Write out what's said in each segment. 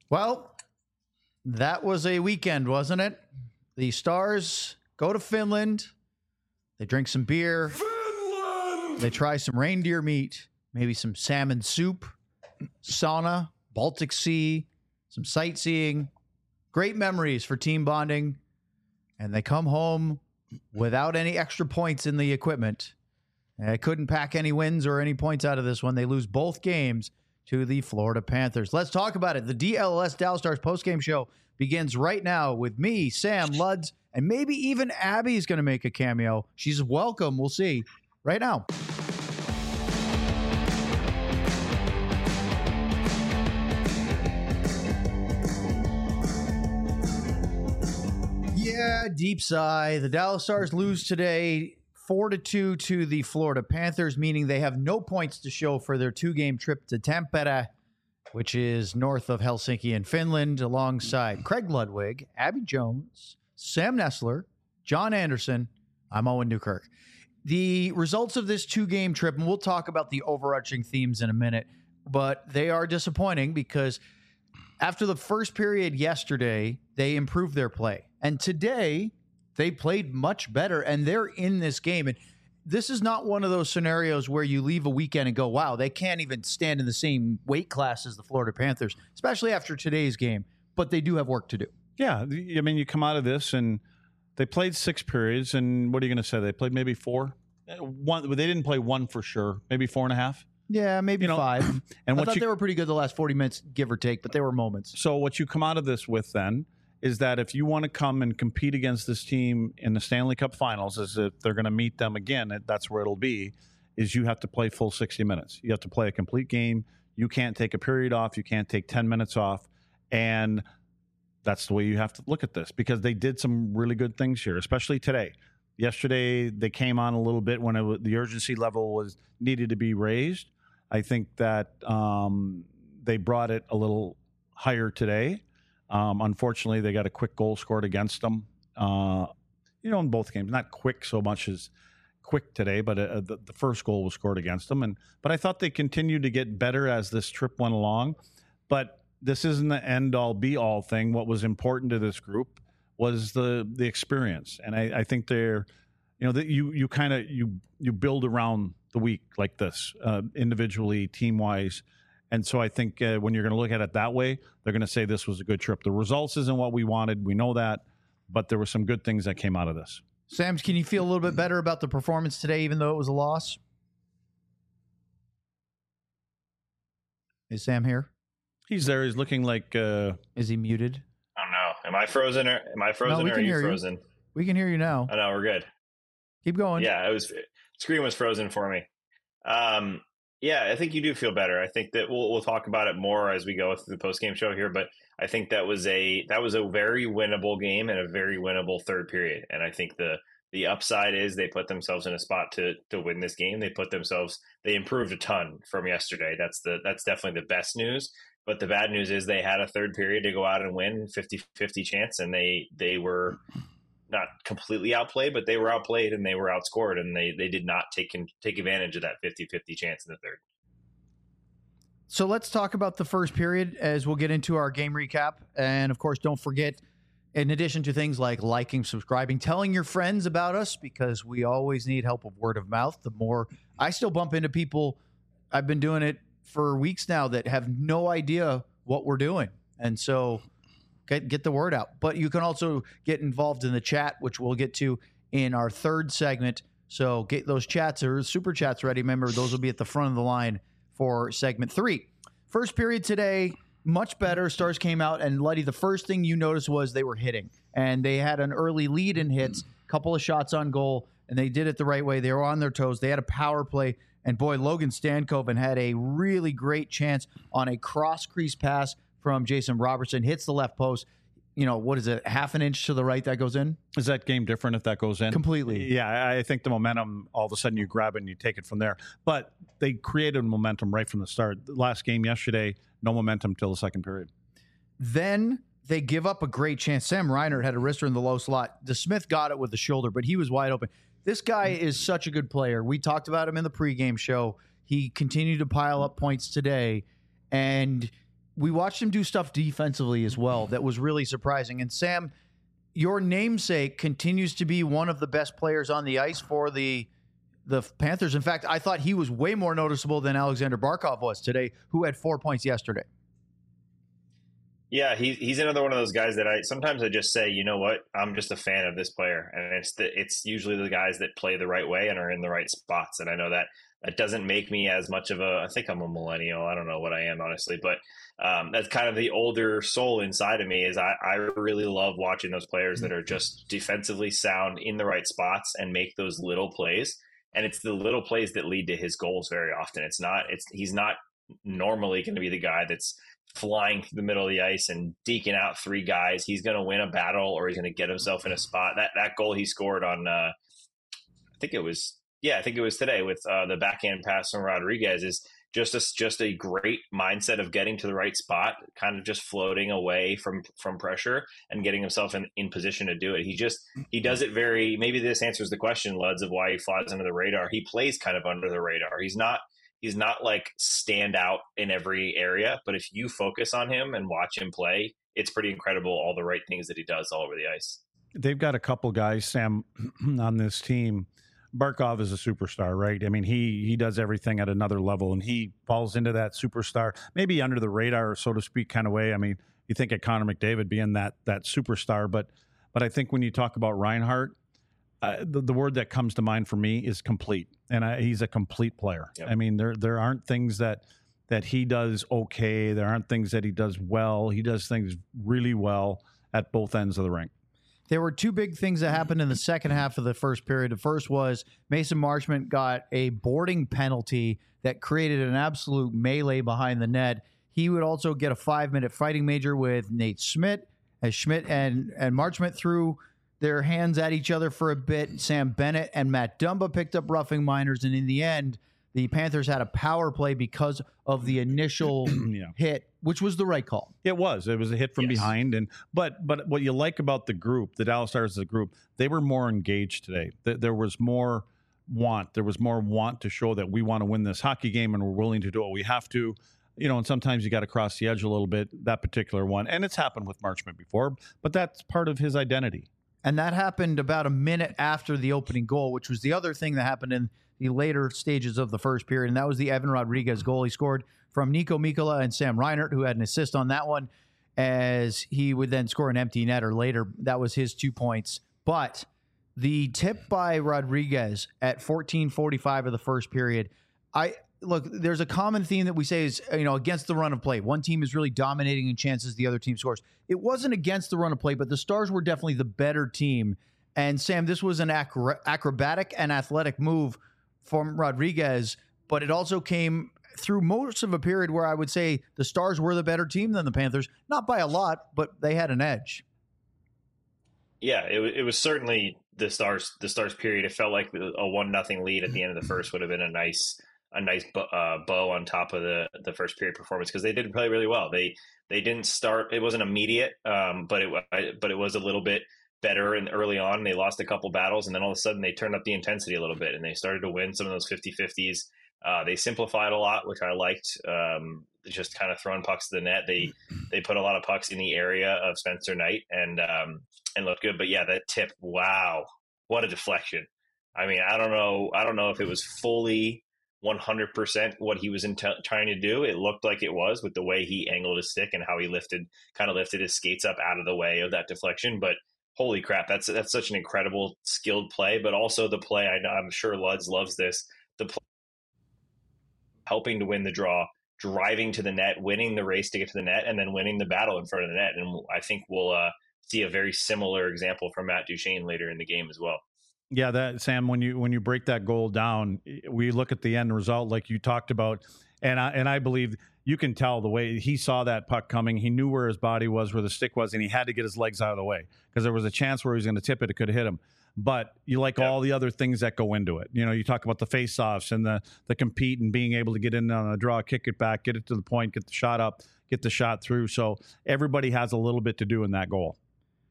Well, that was a weekend, wasn't it? The Stars go to Finland. They drink some beer. Finland! They try some reindeer meat, maybe some salmon soup, sauna, Baltic Sea, some sightseeing. Great memories for team bonding. And they come home without any extra points in the equipment. And they couldn't pack any wins or any points out of this one. They lose both games to the Florida Panthers. Let's talk about it. The DLS Dallas Stars postgame show begins right now with me, Sam, Luds, and maybe even Abby's going to make a cameo. She's welcome. We'll see right now. Yeah, deep sigh. The Dallas Stars lose today 4-2 to the Florida Panthers, meaning they have no points to show for their two-game trip to Tampere, which is north of Helsinki in Finland, alongside Craig Ludwig, Abby Jones, Sam Nestler, John Anderson. I'm Owen Newkirk. The results of this two-game trip, and we'll talk about the overarching themes in a minute, but they are disappointing because after the first period yesterday, they improved their play. And today, they played much better, and they're in this game. And this is not one of those scenarios where you leave a weekend and go, wow, they can't even stand in the same weight class as the Florida Panthers, especially after today's game. But they do have work to do. Yeah, I mean, you come out of this, and they played 6 periods, and what are you going to say? They played maybe 4? One, they didn't play 1 for sure. Maybe 4.5? Yeah, maybe 5. And I thought they were pretty good the last 40 minutes, give or take, but they were moments. So what you come out of this with then is that if you want to come and compete against this team in the Stanley Cup Finals, as if they're going to meet them again, that's where it'll be, is you have to play full 60 minutes. You have to play a complete game. You can't take a period off. You can't take 10 minutes off. And that's the way you have to look at this, because they did some really good things here, especially today. Yesterday, they came on a little bit when the urgency level was needed to be raised. I think that they brought it a little higher today. Unfortunately, they got a quick goal scored against them, in both games. Not quick so much as quick today, but the first goal was scored against them. But I thought they continued to get better as this trip went along. But this isn't the end-all, be-all thing. What was important to this group was the experience. And I think they're, that you build around the week like this, individually, team-wise. And so I think when you're going to look at it that way, they're going to say this was a good trip. The results isn't what we wanted. We know that. But there were some good things that came out of this. Sams, can you feel a little bit better about the performance today, even though it was a loss? Is Sam here? He's there. He's looking like... Is he muted? I don't know. Am I frozen or are you frozen? We can hear you now. Oh, no, we're good. Keep going. Yeah, screen was frozen for me. Yeah, I think you do feel better. I think that we'll talk about it more as we go through the postgame show here, but I think that was a very winnable game and a very winnable third period. And I think the upside is they put themselves in a spot to win this game. They improved a ton from yesterday. That's definitely the best news. But the bad news is they had a third period to go out and win, 50-50 chance, and they were not completely outplayed, but they were outplayed and they were outscored, and they did not take advantage of that 50-50 chance in the third. So let's talk about the first period as we'll get into our game recap. And of course, don't forget, in addition to things like liking, subscribing, telling your friends about us, because we always need help with word of mouth. The more I still bump into people, I've been doing it for weeks now, that have no idea what we're doing. And so get the word out. But you can also get involved in the chat, which we'll get to in our third segment. So get those chats or super chats ready. Remember, those will be at the front of the line for segment 3. First period today, much better. Stars came out, and Luddy, the first thing you noticed was they were hitting. And they had an early lead in hits, couple of shots on goal, and they did it the right way. They were on their toes. They had a power play. And boy, Logan Stankoven had a really great chance on a cross-crease pass from Jason Robertson. Hits the left post. What is it, half an inch to the right that goes in? Is that game different if that goes in? Completely. Yeah, I think the momentum, all of a sudden you grab it and you take it from there. But they created momentum right from the start. The last game yesterday, no momentum till the second period. Then they give up a great chance. Sam Reinert had a wrister in the low slot. DeSmith got it with the shoulder, but he was wide open. This guy is such a good player. We talked about him in the pregame show. He continued to pile up points today. And we watched him do stuff defensively as well that was really surprising. And Sam, your namesake continues to be one of the best players on the ice for the Panthers. In fact, I thought he was way more noticeable than Alexander Barkov was today, who had 4 points yesterday. Yeah, he's another one of those guys that sometimes I just say, you know what, I'm just a fan of this player, and it's usually the guys that play the right way and are in the right spots. And I know that doesn't make me as much of I think I'm a millennial. I don't know what I am, honestly, but that's kind of the older soul inside of me. Is I really love watching those players that are just defensively sound in the right spots and make those little plays. And it's the little plays that lead to his goals very often. He's not normally going to be the guy that's flying through the middle of the ice and deking out 3 guys. He's going to win a battle, or he's going to get himself in a spot. That goal he scored on, I think it was today with the backhand pass from Rodriguez is just a great mindset of getting to the right spot, kind of just floating away from pressure and getting himself in position to do it. He does it maybe this answers the question, Luds, of why he flies under the radar. He plays kind of under the radar. He's not like stand out in every area, but if you focus on him and watch him play, it's pretty incredible all the right things that he does all over the ice. They've got a couple guys, Sam, on this team. Barkov is a superstar, right? I mean, he does everything at another level, and he falls into that superstar, maybe under the radar, so to speak, kind of way. I mean, you think of Connor McDavid being that superstar, but I think when you talk about Reinhart, the word that comes to mind for me is complete, and he's a complete player. Yep. I mean, there aren't things that he does okay. There aren't things that he does well. He does things really well at both ends of the rink. There were 2 big things that happened in the second half of the first period. The first was Mason Marchment got a boarding penalty that created an absolute melee behind the net. He would also get a 5-minute fighting major with Nate Schmidt, as Schmidt and Marchment threw their hands at each other for a bit. Sam Bennett and Matt Dumba picked up roughing minors, and in the end, the Panthers had a power play because of the initial hit, which was the right call. It was a hit from behind, but what you like about the group, the Dallas Stars as a group, they were more engaged today. There was more want. There was more want to show that we want to win this hockey game and we're willing to do what we have to. And sometimes you got to cross the edge a little bit, that particular one. And it's happened with Marchment before, but that's part of his identity. And that happened about a minute after the opening goal, which was the other thing that happened in the later stages of the first period, and that was the Evan Rodriguez goal. He scored from Nico Mikkola and Sam Reinhart, who had an assist on that one, as he would then score an empty netter later. That was his 2 points. But the tip by Rodriguez at 14:45 of the first period, look, there's a common theme that we say is, against the run of play. One team is really dominating in chances, the other team scores. It wasn't against the run of play, but the Stars were definitely the better team. And Sam, this was an acrobatic and athletic move from Rodriguez, but it also came through most of a period where I would say the Stars were the better team than the Panthers, not by a lot, but they had an edge. Yeah, it was certainly the Stars period. It felt like a 1-0 lead at the end of the first would have been a nice bow on top of the first period performance, because they did play really well. They didn't start. It wasn't immediate, but it was a little bit better and early on. They lost a couple battles, and then all of a sudden they turned up the intensity a little bit and they started to win some of those 50-50s. They simplified a lot, which I liked. Just kind of throwing pucks to the net. They put a lot of pucks in the area of Spencer Knight and looked good. But yeah, that tip, wow, what a deflection. I mean, I don't know if it was fully 100% what he was trying to do. It looked like it was, with the way he angled his stick and how he lifted his skates up out of the way of that deflection. But holy crap, that's such an incredible skilled play, but also the play, I'm sure Luds loves this, the play helping to win the draw, driving to the net, winning the race to get to the net, and then winning the battle in front of the net. And I think we'll see a very similar example from Matt Duchene later in the game as well. Yeah, that Sam, when you break that goal down, we look at the end result like you talked about, and I believe you can tell the way he saw that puck coming. He knew where his body was, where the stick was, and he had to get his legs out of the way because there was a chance where he was going to tip it. It could have hit him. But you like all the other things that go into it. You talk about the face-offs and the compete and being able to get in on a draw, kick it back, get it to the point, get the shot up, get the shot through. So everybody has a little bit to do in that goal.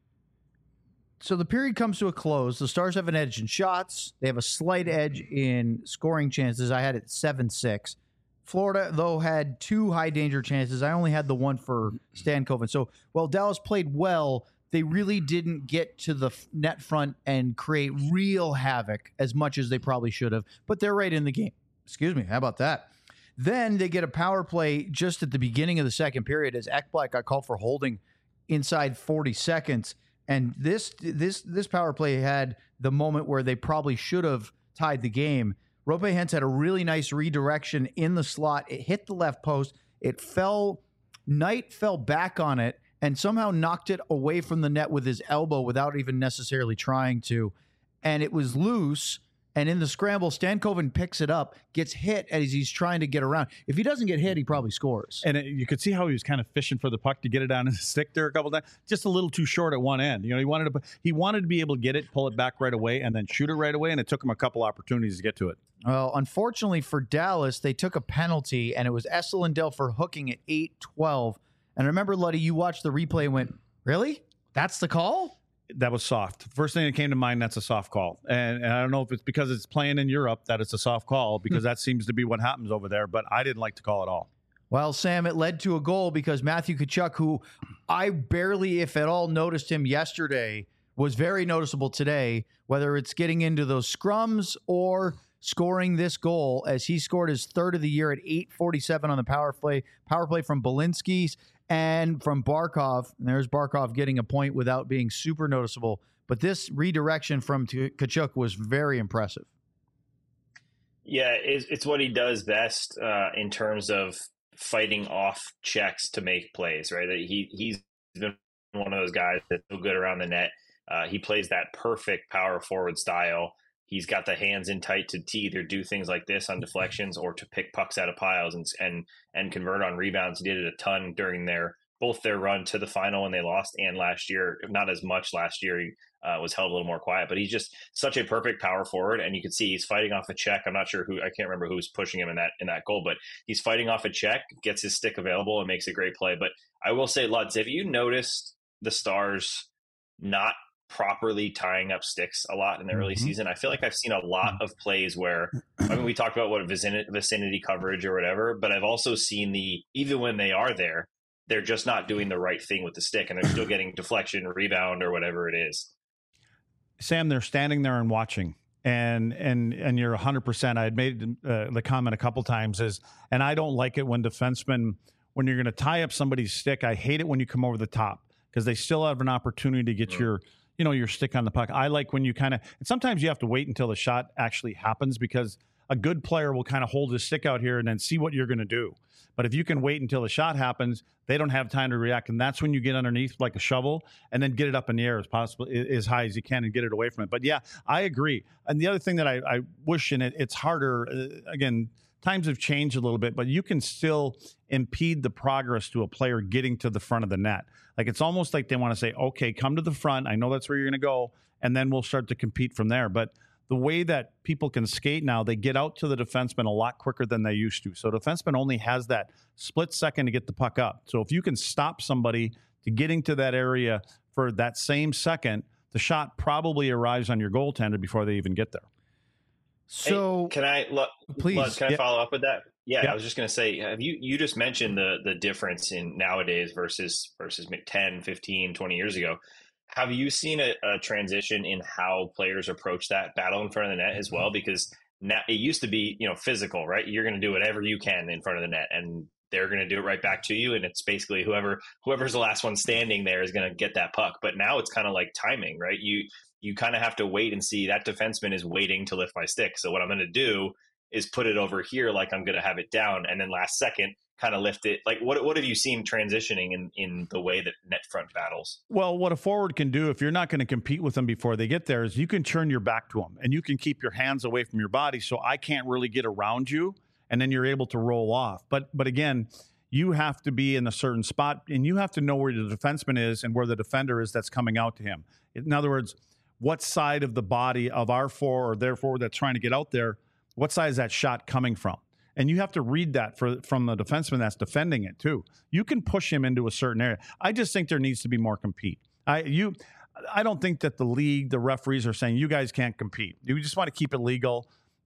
So the period comes to a close. The Stars have an edge in shots. They have a slight edge in scoring chances. I had it 7-6. Florida, though, had 2 high danger chances. I only had the one for Stankoven. So while Dallas played well, they really didn't get to the net front and create real havoc as much as they probably should have. But they're right in the game. Excuse me. How about that? Then they get a power play just at the beginning of the second period as Ekblad got called for holding inside 40 seconds. And this power play had the moment where they probably should have tied the game. Roope Hintz had a really nice redirection in the slot. It hit the left post. It fell. Knight fell back on it and somehow knocked it away from the net with his elbow without even necessarily trying to. And it was loose. And in the scramble, Stankoven picks it up, gets hit as he's trying to get around. If he doesn't get hit, he probably scores. And you could see how he was kind of fishing for the puck to get it down in the stick there a couple of times. Just a little too short at one end. You know, he wanted to be able to get it, pull it back right away, and then shoot it right away. And it took him a couple opportunities to get to it. Well, unfortunately for Dallas, they took a penalty, and it was Esa Lindell for hooking at 8:12. And remember, Luddy, you watched the replay and went, really? That's the call? That was soft. First thing that came to mind, that's a soft call. And I don't know if it's because it's playing in Europe that it's a soft call, because that seems to be what happens over there. But I didn't like the call at all. Well, Sam, it led to a goal because Matthew Tkachuk, who I barely, if at all, noticed him yesterday, was very noticeable today, whether it's getting into those scrums or scoring this goal, as he scored his 3rd of the year at 8:47 on the power play from Belinsky's and from Barkov. And there's Barkov getting a point without being super noticeable. But this redirection from Tkachuk was very impressive. Yeah, it's what he does best in terms of fighting off checks to make plays, right? He's been one of those guys that's so good around the net. He plays that perfect power forward style. He's got the hands in tight to either do things like this on deflections or to pick pucks out of piles and convert on rebounds. He did it a ton during both their run to the final when they lost and last year. Not as much last year. He was held a little more quiet, but he's just such a perfect power forward. And you can see he's fighting off a check. I'm not sure I can't remember who's pushing him in that goal, but he's fighting off a check, gets his stick available, and makes a great play. But I will say, Lutz, if you noticed the Stars not properly tying up sticks a lot in the early season, I feel like I've seen a lot of plays where, I mean, we talked about what vicinity coverage or whatever, but I've also seen even when they are there, they're just not doing the right thing with the stick, and they're still getting deflection, rebound, or whatever it is. Sam, they're standing there and watching. And you're 100%. I had made the comment a couple times and I don't like it when defensemen, when you're going to tie up somebody's stick, I hate it when you come over the top, because they still have an opportunity to get your stick on the puck. I like when you and sometimes you have to wait until the shot actually happens, because a good player will kind of hold his stick out here and then see what you're going to do. But if you can wait until the shot happens, they don't have time to react. And that's when you get underneath like a shovel and then get it up in the air as high as you can and get it away from it. But yeah, I agree. And the other thing that I wish, and it's harder, again, times have changed a little bit, but you can still impede the progress to a player getting to the front of the net. Like, it's almost like they want to say, okay, come to the front. I know that's where you're going to go, and then we'll start to compete from there. But the way that people can skate now, they get out to the defenseman a lot quicker than they used to. So defenseman only has that split second to get the puck up. So if you can stop somebody to getting to that area for that same second, the shot probably arrives on your goaltender before they even get there. So hey, can I follow up with that? Yeah, I was just going to say, have you just mentioned the difference in nowadays versus 10, 15, 20 years ago. Have you seen a transition in how players approach that battle in front of the net as well? Because now it used to be, physical, right? You're going to do whatever you can in front of the net, and they're going to do it right back to you. And it's basically whoever's the last one standing there is going to get that puck. But now it's kind of like timing, right? You kind of have to wait and see that defenseman is waiting to lift my stick. So what I'm going to do is put it over here like I'm going to have it down, and then last second kind of lift it. Like, what have you seen transitioning in the way that net front battles? Well, what a forward can do if you're not going to compete with them before they get there is you can turn your back to them and you can keep your hands away from your body, so I can't really get around you, and then you're able to roll off. But again, you have to be in a certain spot, and you have to know where the defenseman is and where the defender is that's coming out to him. In other words, what side of the body of our forward or their forward that's trying to get out there, what side is that shot coming from? And you have to read that from the defenseman that's defending it too. You can push him into a certain area. I just think there needs to be more compete. I don't think that the league, the referees are saying you guys can't compete. You just want to keep it legal.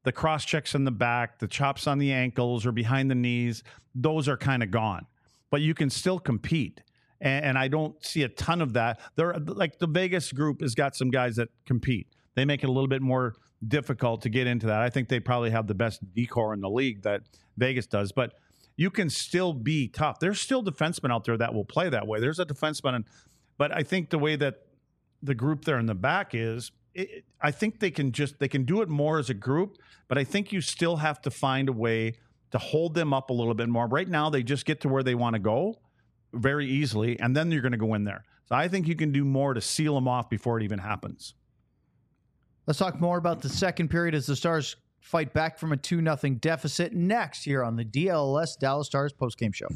the cross checks in the back, the chops on the ankles or behind the knees, those are kind of gone. But you can still compete. And I don't see a ton of that. There, like the Vegas group has got some guys that compete. They make it a little bit more difficult to get into that. I think they probably have the best decor in the league that Vegas does. But you can still be tough. There's still defensemen out there that will play that way. There's a defenseman. But I think the way that the group there in the back is, I think they can do it more as a group. But I think you still have to find a way to hold them up a little bit more. Right now, they just get to where they want to go very easily, and then you're going to go in there. So I think you can do more to seal them off before it even happens. Let's talk more about the second period as the Stars fight back from a 2-0 deficit next here on the DLS Dallas Stars postgame show.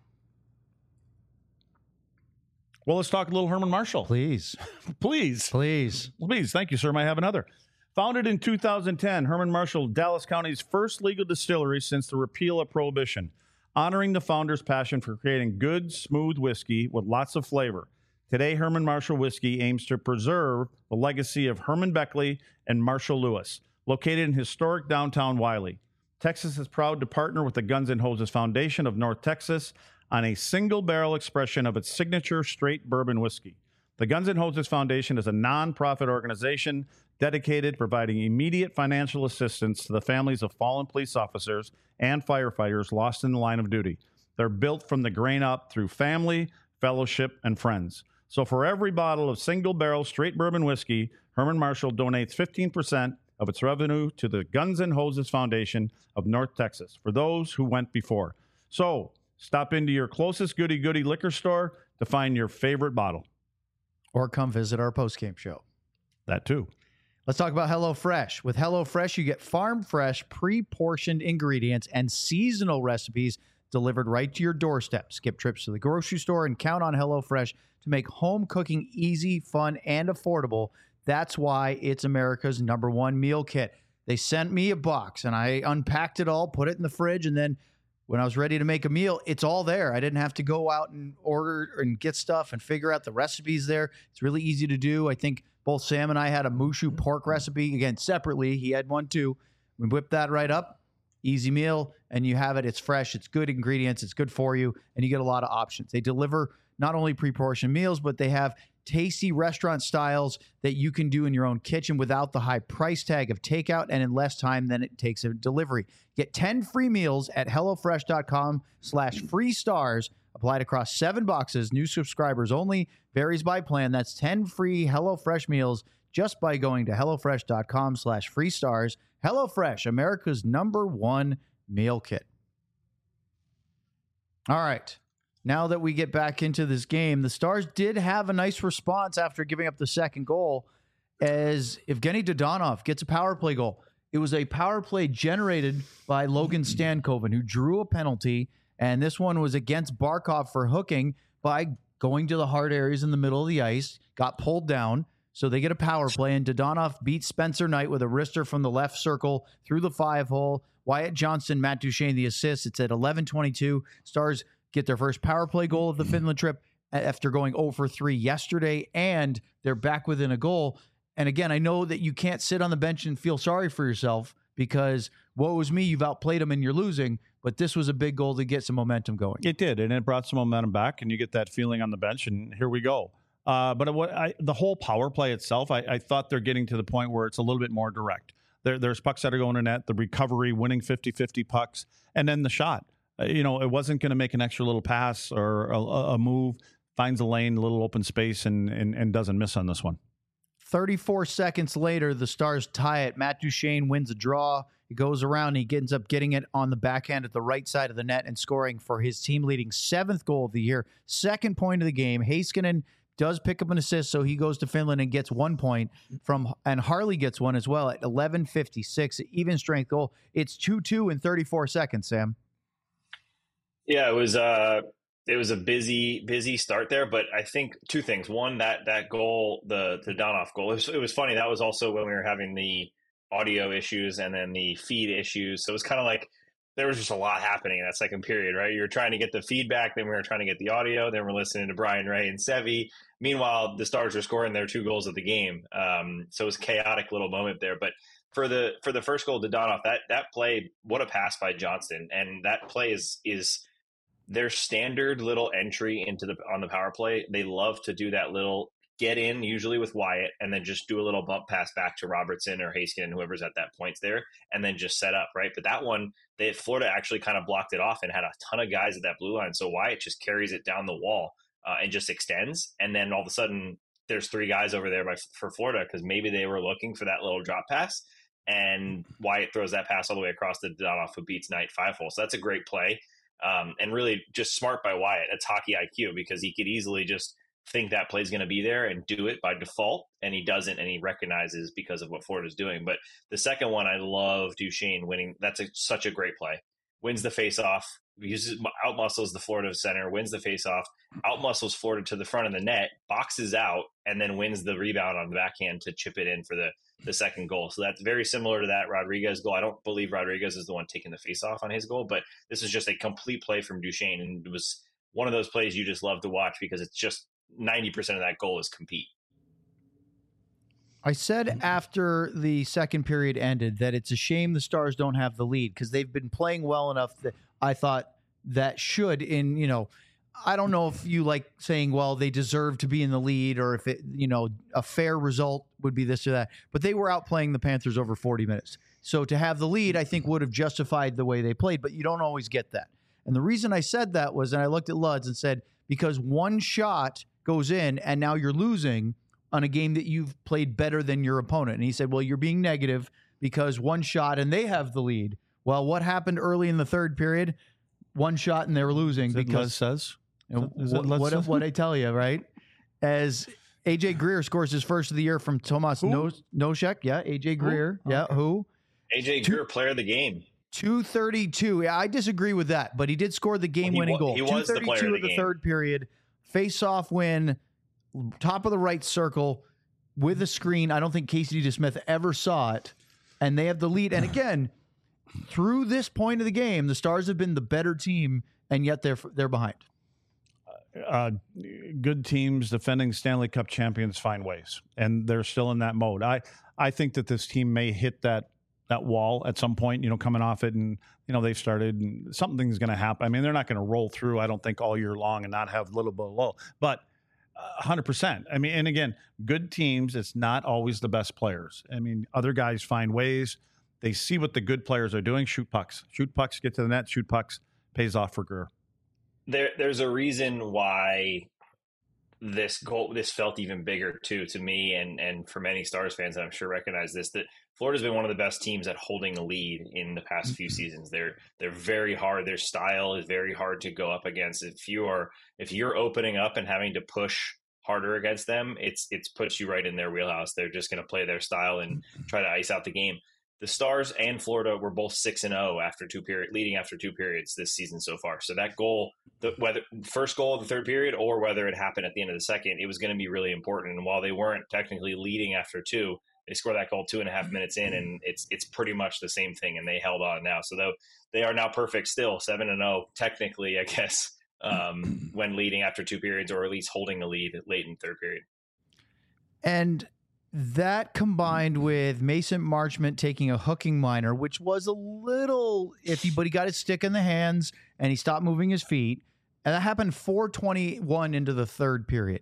Well, let's talk a little Herman Marshall. Please. Please. Please. Please. Thank you, sir. May I have another? Founded in 2010, Herman Marshall, Dallas County's first legal distillery since the repeal of Prohibition, honoring the founder's passion for creating good, smooth whiskey with lots of flavor. Today, Herman Marshall Whiskey aims to preserve the legacy of Herman Beckley and Marshall Lewis, located in historic downtown Wiley. Texas is proud to partner with the Guns N' Roses Foundation of North Texas on a single-barrel expression of its signature straight bourbon whiskey. The Guns N' Roses Foundation is a nonprofit organization dedicated to providing immediate financial assistance to the families of fallen police officers and firefighters lost in the line of duty. They're built from the grain up through family, fellowship, and friends. So for every bottle of single-barrel straight bourbon whiskey, Herman Marshall donates 15% of its revenue to the Guns N' Roses Foundation of North Texas for those who went before. So stop into your closest goody-goody liquor store to find your favorite bottle. Or come visit our postgame show. That too. Let's talk about HelloFresh. With HelloFresh, you get farm-fresh, pre-portioned ingredients and seasonal recipes delivered right to your doorstep. Skip trips to the grocery store and count on HelloFresh to make home cooking easy, fun, and affordable. That's why it's America's #1 meal kit. They sent me a box, and I unpacked it all, put it in the fridge, and then when I was ready to make a meal, it's all there. I didn't have to go out and order and get stuff and figure out the recipes there. It's really easy to do. I think both Sam and I had a Mushu pork recipe, again, separately. He had one too. We whipped that right up. Easy meal, and you have it. It's fresh. It's good ingredients. It's good for you, and you get a lot of options. They deliver not only pre-portioned meals, but they have tasty restaurant styles that you can do in your own kitchen without the high price tag of takeout and in less time than it takes a delivery. Get 10 free meals at HelloFresh.com/free stars. Applied across 7 boxes. New subscribers only. Varies by plan. That's 10 free HelloFresh meals just by going to HelloFresh.com/free stars. HelloFresh, America's #1 meal kit. All right. Now that we get back into this game, the Stars did have a nice response after giving up the second goal as Evgeny Dodonov gets a power play goal. It was a power play generated by Logan Stankoven, who drew a penalty, and this one was against Barkov for hooking by going to the hard areas in the middle of the ice, got pulled down, so they get a power play, and Dodonov beats Spencer Knight with a wrister from the left circle through the 5-hole. Wyatt Johnston, Matt Duchene, the assist. It's at 11:22. Stars get their first power play goal of the Finland trip after going 0 for 3 yesterday, and they're back within a goal. And again, I know that you can't sit on the bench and feel sorry for yourself because, woe is me, you've outplayed them and you're losing, but this was a big goal to get some momentum going. It did, and it brought some momentum back, and you get that feeling on the bench, and here we go. But the whole power play itself, I thought they're getting to the point where it's a little bit more direct. There's pucks that are going to net, the recovery, winning 50-50 pucks, and then the shot. It wasn't going to make an extra little pass or a move, finds a lane, a little open space, and doesn't miss on this one. 34 seconds later, the Stars tie it. Matt Duchene wins a draw. He goes around. He ends up getting it on the backhand at the right side of the net and scoring for his team-leading 7th goal of the year. 2nd point of the game. Heiskanen does pick up an assist, so he goes to Finland and gets 1 point and Harley gets one as well at 11:56, even strength goal. It's 2-2 in 34 seconds, Sam. Yeah, it was a busy start there, but I think 2 things. One, that goal, the Donoff goal, it was funny. That was also when we were having the audio issues and then the feed issues. So it was kind of like there was just a lot happening in that second period, right? You were trying to get the feedback, then we were trying to get the audio, then we're listening to Brian Ray and Sevi. Meanwhile, the Stars are scoring their 2 goals of the game. So it was a chaotic little moment there. But for the first goal to Donoff, that play, what a pass by Johnston, and that play is their standard little entry on the power play. They love to do that little get in, usually with Wyatt, and then just do a little bump pass back to Robertson or Haskin and whoever's at that point there, and then just set up, right? But that one, Florida actually kind of blocked it off and had a ton of guys at that blue line. So Wyatt just carries it down the wall and just extends. And then all of a sudden, there's 3 guys over there for Florida because maybe they were looking for that little drop pass. And Wyatt throws that pass all the way across the Donoff, who beats Knight 5-hole. So that's a great play. And really just smart by Wyatt. That's hockey IQ, because he could easily just think that play's going to be there and do it by default, and he doesn't, and he recognizes because of what Florida's doing. But the second one, I love Duchesne winning. That's such a great play. Wins the face-off, outmuscles the Florida center, wins the face-off, outmuscles Florida to the front of the net, boxes out, and then wins the rebound on the backhand to chip it in for the second goal. So that's very similar to that Rodriguez goal. I don't believe Rodriguez is the one taking the face-off on his goal, but this is just a complete play from Duchesne, and it was one of those plays you just love to watch because it's just 90% of that goal is compete. I said after the second period ended that it's a shame the Stars don't have the lead because they've been playing well enough that I thought that should, I don't know if you like saying, well, they deserve to be in the lead, or if it, a fair result would be this or that, but they were outplaying the Panthers over 40 minutes. So to have the lead, I think would have justified the way they played, but you don't always get that. And the reason I said that was, and I looked at Luds and said, because one shot goes in and now you're losing on a game that you've played better than your opponent. And he said, well, you're being negative because one shot and they have the lead. Well, what happened early in the third period? One shot and they were losing because says what I tell you, right? As AJ Greer scores his first of the year from Tomas Nosek. Yeah, AJ Greer. Who? Yeah, okay. who? AJ Greer, player of the game. 2:32. Yeah, I disagree with that, but he did score the game-winning goal. He was the player of the third period. Face-off win, top of the right circle with a screen. I don't think Casey DeSmith ever saw it, and they have the lead. And again, through this point of the game, the Stars have been the better team, and yet they're behind. Good teams, defending Stanley Cup champions, find ways, and they're still in that mode. I think that this team may hit that wall at some point, coming off it, and they've started, and something's going to happen. I mean, they're not going to roll through, I don't think, all year long and not have a little bit of low, but 100%. I mean, and again, good teams, it's not always the best players. I mean, other guys find ways. They see what the good players are doing. Shoot pucks, get to the net, shoot pucks, pays off for Greer. There's a reason why this felt even bigger too, to me, and for many Stars fans, I'm sure recognize this, that Florida's been one of the best teams at holding a lead in the past few seasons. They're very hard. Their style is very hard to go up against. If you're opening up and having to push harder against them, it's puts you right in their wheelhouse. They're just going to play their style and try to ice out the game. The Stars and Florida were both 6-0 leading after 2 periods this season so far. So that goal, whether first goal of the third period or whether it happened at the end of the second, it was going to be really important. And while they weren't technically leading after 2, they scored that goal 2.5 minutes in, and it's pretty much the same thing. And they held on now, so they are now perfect still, 7-0 technically, I guess, when leading after 2 periods, or at least holding the lead late in the third period. And that combined with Mason Marchment taking a hooking minor, which was a little iffy, but he got his stick in the hands and he stopped moving his feet. And that happened 4:21 into the third period.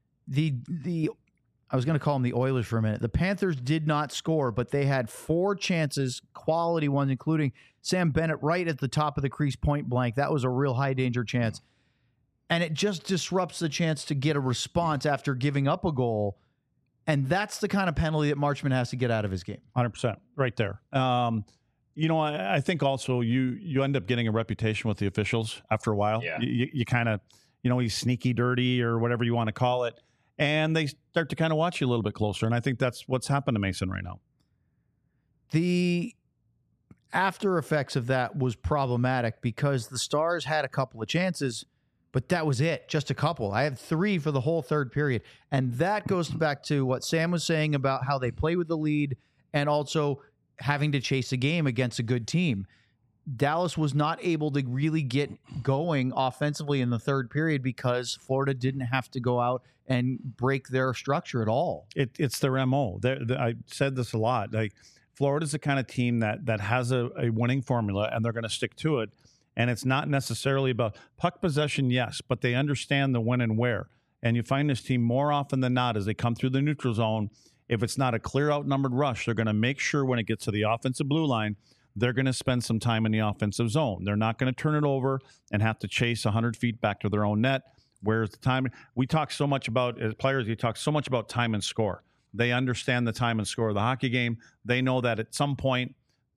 I was going to call them the Oilers for a minute. The Panthers did not score, but they had 4 chances, quality ones, including Sam Bennett right at the top of the crease, point blank. That was a real high danger chance. And it just disrupts the chance to get a response after giving up a goal. And that's the kind of penalty that Marchment has to get out of his game. 100%, right there. I think also you end up getting a reputation with the officials after a while. Yeah. You kind of, he's sneaky dirty or whatever you want to call it. And they start to kind of watch you a little bit closer. And I think that's what's happened to Mason right now. The after effects of that was problematic because the Stars had a couple of chances, but that was it, just a couple. I had 3 for the whole third period. And that goes back to what Sam was saying about how they play with the lead and also having to chase a game against a good team. Dallas was not able to really get going offensively in the third period because Florida didn't have to go out and break their structure at all. It's their MO. I said this a lot. Like Florida's the kind of team that has a winning formula, and they're going to stick to it. And it's not necessarily about puck possession, yes, but they understand the when and where. And you find this team more often than not as they come through the neutral zone, if it's not a clear outnumbered rush, they're going to make sure when it gets to the offensive blue line, they're going to spend some time in the offensive zone. They're not going to turn it over and have to chase 100 feet back to their own net. Where's the time? We talk so much about, as players, we talk so much about time and score. They understand the time and score of the hockey game. They know that at some point,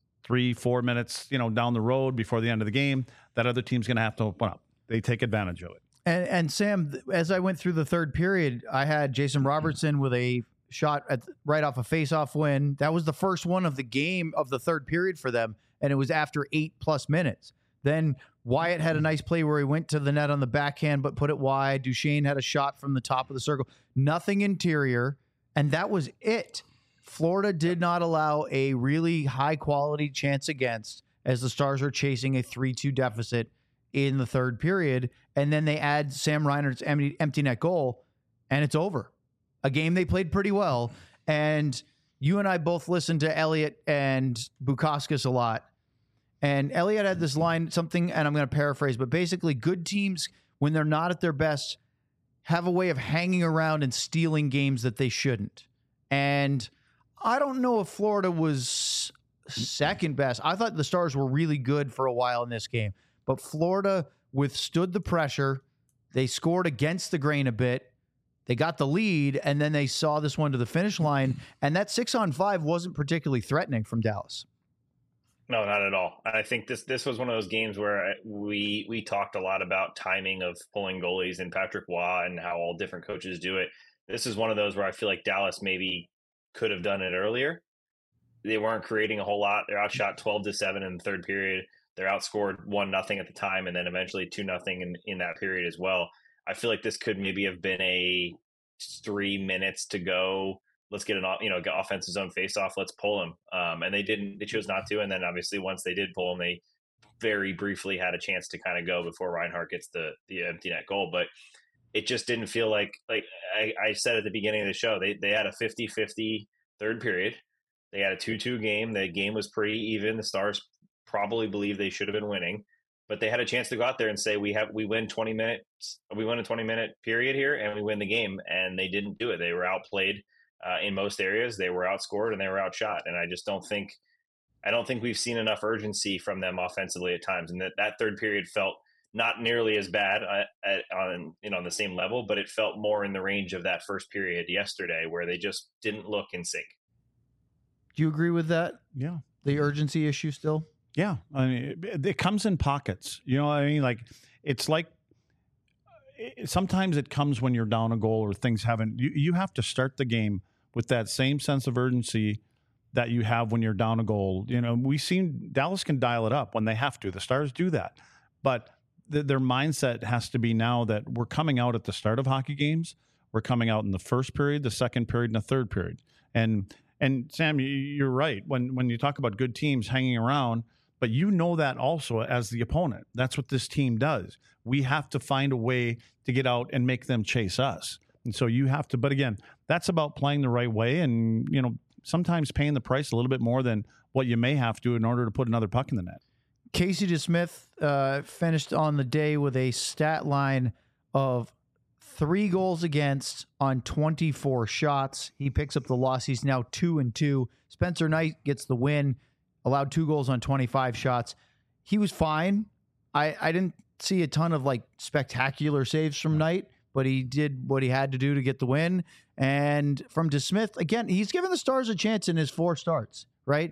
3-4 minutes, down the road before the end of the game, that other team's going to have to open up. They take advantage of it. And Sam, as I went through the third period, I had Jason Robertson with a shot right off a face-off win. That was the first one of the game of the third period for them, and it was after 8+ minutes. Then Wyatt had a nice play where he went to the net on the backhand but put it wide. Duchesne had a shot from the top of the circle. Nothing interior, and that was it. Florida did not allow a really high-quality chance against as the Stars are chasing a 3-2 deficit in the third period, and then they add Sam Reinert's empty net goal, and it's over. A game they played pretty well, and you and I both listened to Elliott and Bukauskas a lot, and Elliott had this line, something, and I'm going to paraphrase, but basically good teams, when they're not at their best, have a way of hanging around and stealing games that they shouldn't. And I don't know if Florida was second best. I thought the Stars were really good for a while in this game, but Florida withstood the pressure. They scored against the grain a bit. They got the lead, and then they saw this one to the finish line, and that 6-on-5 wasn't particularly threatening from Dallas. No, not at all. I think this was one of those games where we talked a lot about timing of pulling goalies and Patrick Waugh and how all different coaches do it. This is one of those where I feel like Dallas maybe could have done it earlier. They weren't creating a whole lot. They're outshot 12-7 in the third period. They're outscored 1-0 at the time, and then eventually 2-0 in that period as well. I feel like this could maybe have been a 3 minutes to go. Let's get get offensive zone face off. Let's pull him. And they didn't. They chose not to. And then obviously once they did pull him, they very briefly had a chance to kind of go before Reinhart gets the empty net goal. But it just didn't feel like I said at the beginning of the show, they had a 50-50 third period. They had a 2-2 game. The game was pretty even. The Stars probably believe they should have been winning, but they had a chance to go out there and say, we win 20 minutes. We win a 20-minute period here and we win the game. And they didn't do it. They were outplayed in most areas. They were outscored and they were outshot. And I just don't think we've seen enough urgency from them offensively at times. And that third period felt not nearly as bad on the same level, but it felt more in the range of that first period yesterday where they just didn't look in sync. Do you agree with that? Yeah. The urgency issue still? Yeah. I mean, it comes in pockets. You know what I mean? Like, it's like sometimes it comes when you're down a goal or things haven't. You have to start the game with that same sense of urgency that you have when you're down a goal. You know, we've seen Dallas can dial it up when they have to. The Stars do that. But their mindset has to be now that we're coming out at the start of hockey games. We're coming out in the first period, the second period, and the third period. And Sam, you're right. When you talk about good teams hanging around, but you know that also as the opponent. That's what this team does. We have to find a way to get out and make them chase us. And so you have to, but again, that's about playing the right way and, sometimes paying the price a little bit more than what you may have to in order to put another puck in the net. Casey DeSmith finished on the day with a stat line of 3 goals against on 24 shots. He picks up the loss. He's now 2-2. Spencer Knight gets the win, allowed 2 goals on 25 shots. He was fine. I didn't see a ton of spectacular saves from Knight, but he did what he had to do to get the win. And from DeSmith, again, he's given the Stars a chance in his 4 starts, right?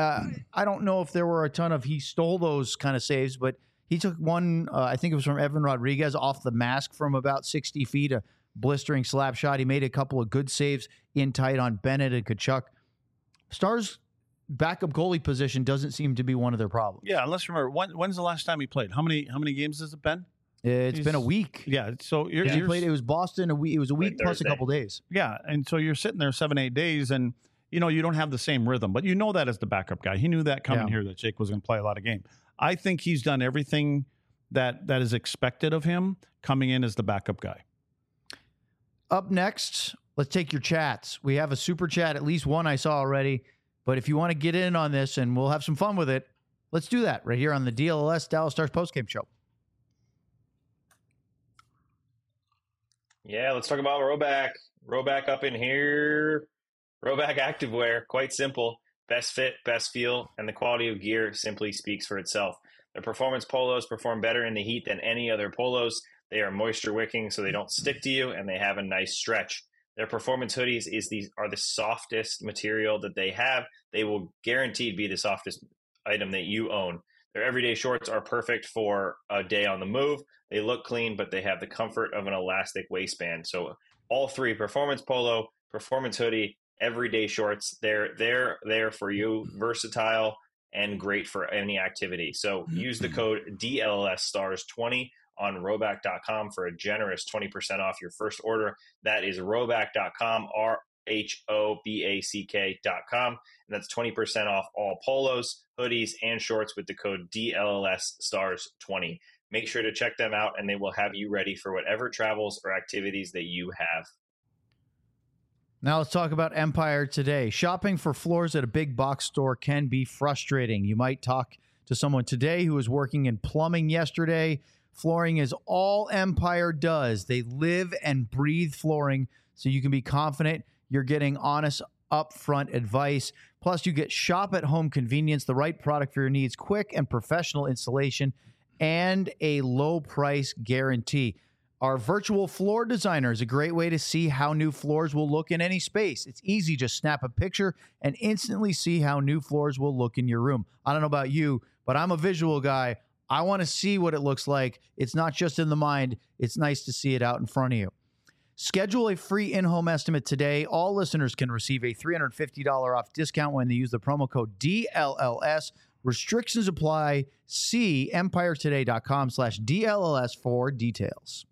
I don't know if there were a ton of he stole those kind of saves, but he took one, I think it was from Evan Rodriguez, off the mask from about 60 feet, a blistering slap shot. He made a couple of good saves in tight on Bennett and Tkachuk. Stars' backup goalie position doesn't seem to be one of their problems. Yeah, let's remember, when's the last time he played? How many games has it been? It's been a week. Yeah, so he played. It was Boston a week. It was a week plus a couple days. Yeah, and so you're sitting there 7-8 days, and you don't have the same rhythm. But that as the backup guy, he knew that coming here that Jake was going to play a lot of game. I think he's done everything that is expected of him coming in as the backup guy. Up next, let's take your chats. We have a super chat, at least one I saw already. But if you want to get in on this and we'll have some fun with it, let's do that right here on the DLLS Dallas Stars postgame show. Yeah, let's talk about Rhoback. Rhoback up in here. Rhoback Activewear, quite simple. Best fit, best feel, and the quality of gear simply speaks for itself. Their performance polos perform better in the heat than any other polos. They are moisture wicking, so they don't stick to you, and they have a nice stretch. Their performance hoodies are the softest material that they have. They will guaranteed be the softest item that you own. Their everyday shorts are perfect for a day on the move. They look clean, but they have the comfort of an elastic waistband. So all three, performance polo, performance hoodie, everyday shorts, they're there for you, versatile and great for any activity. So use the code DLLSstars20 on Rhoback.com for a generous 20% off your first order. That is Rhoback.com, RHOBACK.com. And that's 20% off all polos, hoodies, and shorts with the code DLLSstars20. Make sure to check them out, and they will have you ready for whatever travels or activities that you have. Now let's talk about Empire today. Shopping for floors at a big box store can be frustrating. You might talk to someone today who was working in plumbing yesterday. Flooring is all Empire does. They live and breathe flooring, so you can be confident you're getting honest, upfront advice. Plus, you get shop-at-home convenience, the right product for your needs, quick and professional installation, and a low price guarantee. Our virtual floor designer is a great way to see how new floors will look in any space. It's easy. Just snap a picture and instantly see how new floors will look in your room. I don't know about you, but I'm a visual guy. I want to see what it looks like. It's not just in the mind. It's nice to see it out in front of you. Schedule a free in-home estimate today. All listeners can receive a $350 off discount when they use the promo code DLLS. Restrictions apply. See empiretoday.com/DLLS for details.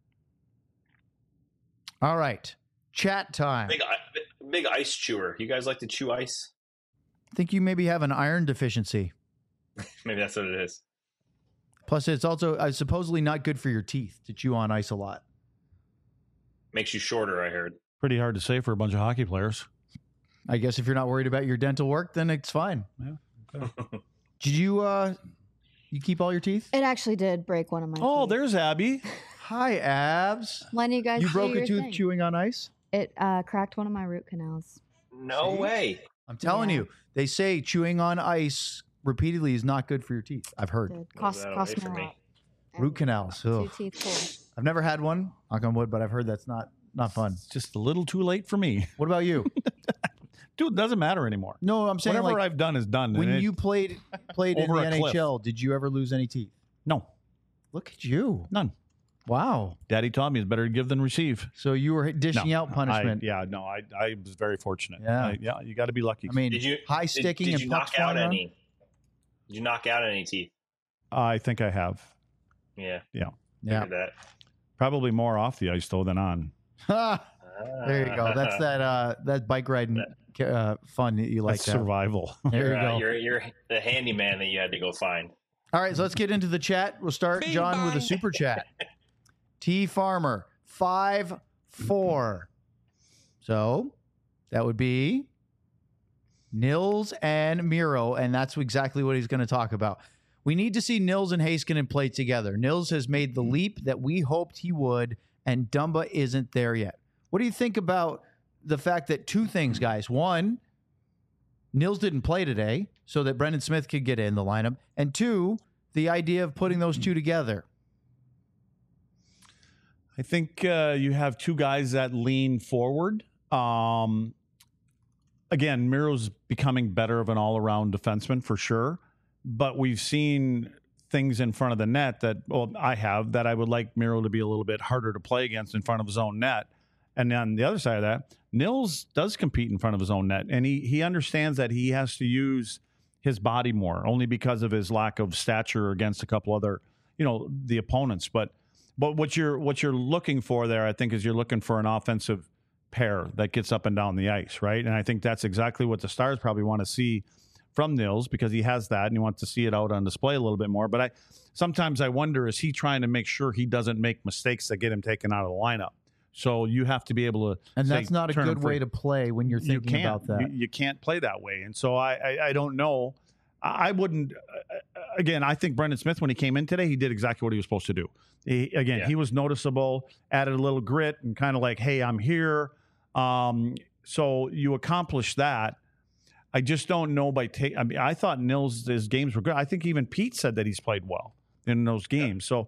All right. Chat time. Big ice chewer. You guys like to chew ice? I think you maybe have an iron deficiency. Maybe that's what it is. Plus, it's also supposedly not good for your teeth to chew on ice a lot. Makes you shorter, I heard. Pretty hard to say for a bunch of hockey players. I guess if you're not worried about your dental work, then it's fine. Yeah. Okay. Did you keep all your teeth? It actually did break one of my Oh, teeth. there's Abby. Hi, Abs. When you guys You do broke a your tooth thing. chewing on ice? It cracked one of my root canals. No See? way. I'm telling Yeah. you, they say chewing on ice repeatedly is not good for your teeth. I've heard. It cost that me away a from me. lot. Root canals. Two Ugh. teeth pulled. I've never had one, knock on wood, but I've heard that's not fun. Just a little too late for me. What about you? Dude, it doesn't matter anymore. No, I'm saying Whatever like I've done is done. when and you played in the Over a cliff. NHL, did you ever lose any teeth? No, Look at you. none. Wow. Daddy taught me it's better to give than receive. So you were dishing No, out punishment. I was very fortunate. Yeah. You got to be lucky. I mean, Did you high sticking Did and you pucks knock out flying around? any? Did you knock out any teeth? I think I have. Yeah. Yeah. Figured that. Probably more off the ice though than on. There you go. That's that bike riding fun that you like. That's to have. survival. There you go. You're the handyman that you had to go find. All right, so let's get into the chat. We'll start, John, with a super chat. T Farmer 5-4. So that would be Nils and Miro, and that's exactly what he's going to talk about. We need to see Nils and Heiskanen play together. Nils has made the leap that we hoped he would, and Dumba isn't there yet. What do you think about the fact that two things, guys? One, Nils didn't play today so that Brendan Smith could get in the lineup. And two, the idea of putting those two together. I think you have two guys that lean forward. Again, Miro's becoming better of an all-around defenseman for sure. But we've seen things in front of the net that, well, I have, that I would like Miro to be a little bit harder to play against in front of his own net. And on the other side of that, Nils does compete in front of his own net. And he understands that he has to use his body more, only because of his lack of stature against a couple other, the opponents. But what you're looking for there, I think, is you're looking for an offensive pair that gets up and down the ice, right? And I think that's exactly what the Stars probably want to see from Nils, because he has that and he wants to see it out on display a little bit more. But sometimes I wonder, is he trying to make sure he doesn't make mistakes that get him taken out of the lineup? So you have to be able to, And say, that's not a turn him good way free. to play when you're You thinking can't. about that. You can't play that way. And so I don't know. I wouldn't. Again, I think Brendan Smith, when he came in today, he did exactly what he was supposed to do. He was noticeable, added a little grit, and kind of like, hey, I'm here. So you accomplish that. I just don't know I thought his games were good. I think even Pete said that he's played well in those games. So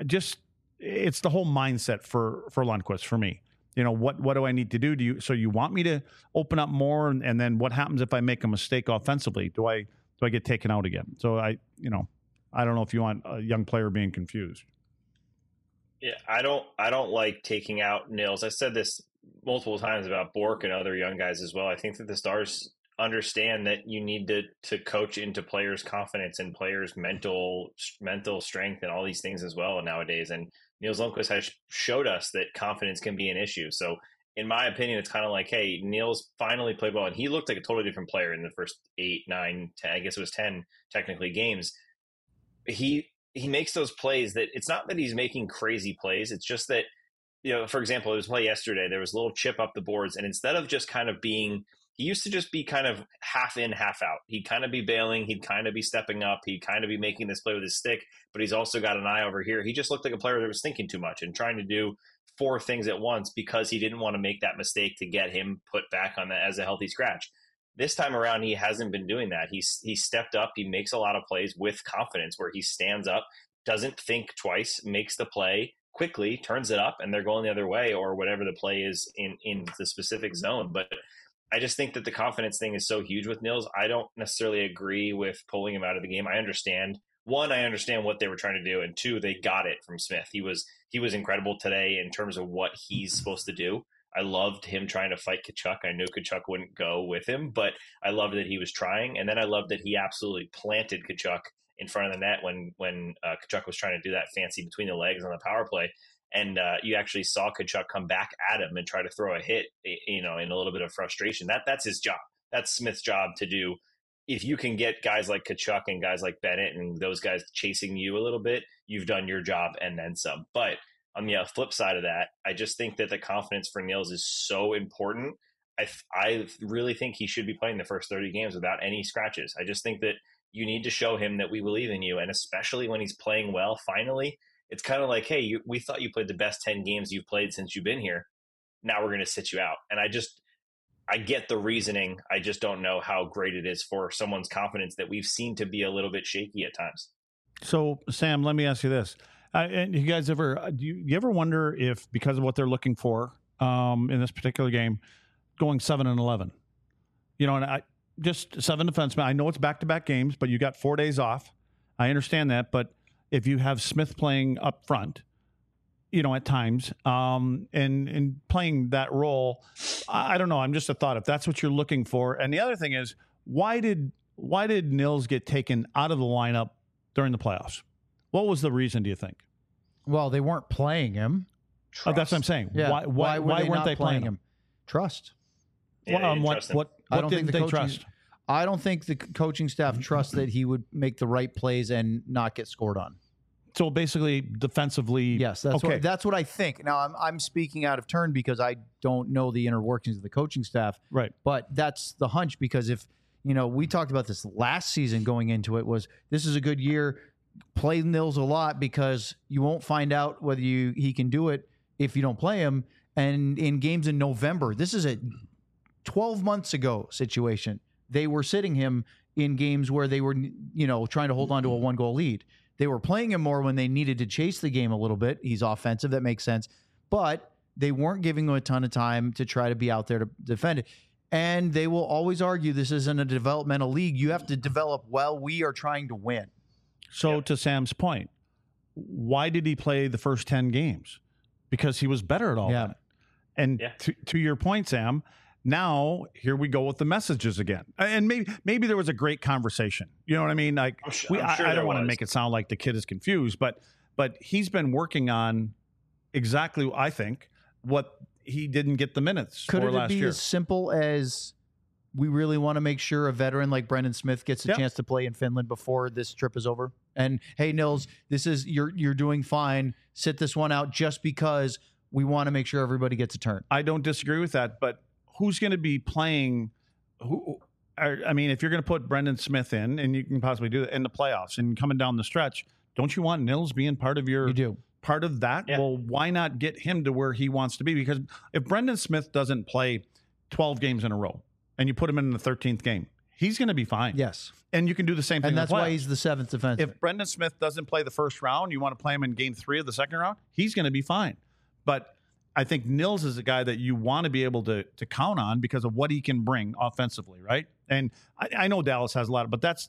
it's the whole mindset for Lundqvist for me. What do I need to do? So you want me to open up more, and then what happens if I make a mistake offensively? Do I get taken out again? So I don't know if you want a young player being confused. Yeah, I don't like taking out Nils. I said this multiple times about Bork and other young guys as well. I think that the Stars understand that you need to coach into players' confidence and players' mental strength and all these things as well nowadays. And Nils Lundqvist has showed us that confidence can be an issue. So in my opinion, it's kind of like, hey, Nils finally played well, and he looked like a totally different player in the first 8, 9, 10, I guess it was 10 technically games. He makes those plays that it's not that he's making crazy plays. It's just that, for example, there was a play yesterday. There was a little chip up the boards, and instead of just kind of being, he used to just be kind of half in, half out. He'd kind of be bailing. He'd kind of be stepping up. He'd kind of be making this play with his stick, but he's also got an eye over here. He just looked like a player that was thinking too much and trying to do 4 things at once because he didn't want to make that mistake to get him put back on that as a healthy scratch. This time around, he hasn't been doing that. He stepped up. He makes a lot of plays with confidence where he stands up, doesn't think twice, makes the play quickly, turns it up, and they're going the other way or whatever the play is in the specific zone. But I just think that the confidence thing is so huge with Nils. I don't necessarily agree with pulling him out of the game. I understand what they were trying to do, and 2, they got it from Smith. He was incredible today in terms of what he's supposed to do. I loved him trying to fight Tkachuk. I knew Tkachuk wouldn't go with him, but I loved that he was trying. And then I loved that he absolutely planted Tkachuk in front of the net when Tkachuk was trying to do that fancy between the legs on the power play. And you actually saw Tkachuk come back at him and try to throw a hit, in a little bit of frustration. That's his job. That's Smith's job to do. If you can get guys like Tkachuk and guys like Bennett and those guys chasing you a little bit, you've done your job and then some. But on the flip side of that, I just think that the confidence for Nils is so important. I really think he should be playing the first 30 games without any scratches. I just think that you need to show him that we believe in you. And especially when he's playing well, finally, it's kind of like, hey, we thought you played the best 10 games you've played since you've been here. Now we're going to sit you out. And I get the reasoning. I just don't know how great it is for someone's confidence that we've seen to be a little bit shaky at times. So, Sam, let me ask you this. And you guys do you ever wonder if, because of what they're looking for in this particular game, going 7-11, and just 7 defensemen, I know it's back-to-back games, but you got 4 days off. I understand that. But if you have Smith playing up front, at times, and playing that role, I don't know. I'm just a thought if that's what you're looking for. And the other thing is, why did Nils get taken out of the lineup during the playoffs? What was the reason, do you think? Well, they weren't playing him. Oh, that's what I'm saying. Yeah. Why weren't they playing him? Trust. Yeah, what didn't they trust? I don't think the coaching staff trusts that he would make the right plays and not get scored on. So basically, defensively, yes, that's what I think. Now, I'm speaking out of turn because I don't know the inner workings of the coaching staff. Right. But that's the hunch, because if we talked about this last season going into it, was this is a good year. Play Nils a lot because you won't find out whether he can do it if you don't play him. And in games in November, this is a 12 months ago situation. They were sitting him in games where they were, trying to hold on to a 1-goal lead. They were playing him more when they needed to chase the game a little bit. He's offensive. That makes sense. But they weren't giving him a ton of time to try to be out there to defend it. And they will always argue this isn't a developmental league. You have to develop well. We are trying to win. So to Sam's point, why did he play the first 10 games? Because he was better at all that. And to your point, Sam, now here we go with the messages again. And maybe there was a great conversation. You know what I mean? Like I don't want to make it sound like the kid is confused, but he's been working on exactly, I think, what he didn't get the minutes for last year. Could it be as simple as we really want to make sure a veteran like Brendan Smith gets a chance to play in Finland before this trip is over? And hey, Nils, this is you're doing fine. Sit this one out just because We want to make sure everybody gets a turn. I don't disagree with that, but who's going to be playing? I mean, if you're going to put Brendan Smith in, and you can possibly do that in the playoffs and coming down the stretch, don't you want Nils being part of your? You do. Part of that? Yeah. Well, why not get him to where he wants to be? Because if Brendan Smith doesn't play 12 games in a row and you put him in the 13th game, he's going to be fine. Yes. And you can do the same thing. And in that's the why playoffs. he's the 7th defenseman. If Brendan Smith doesn't play the first round, you want to play him in game 3 of the second round, he's going to be fine. But I think Nils is a guy that you want to be able to count on because of what he can bring offensively, right? And I know Dallas has a lot, but that's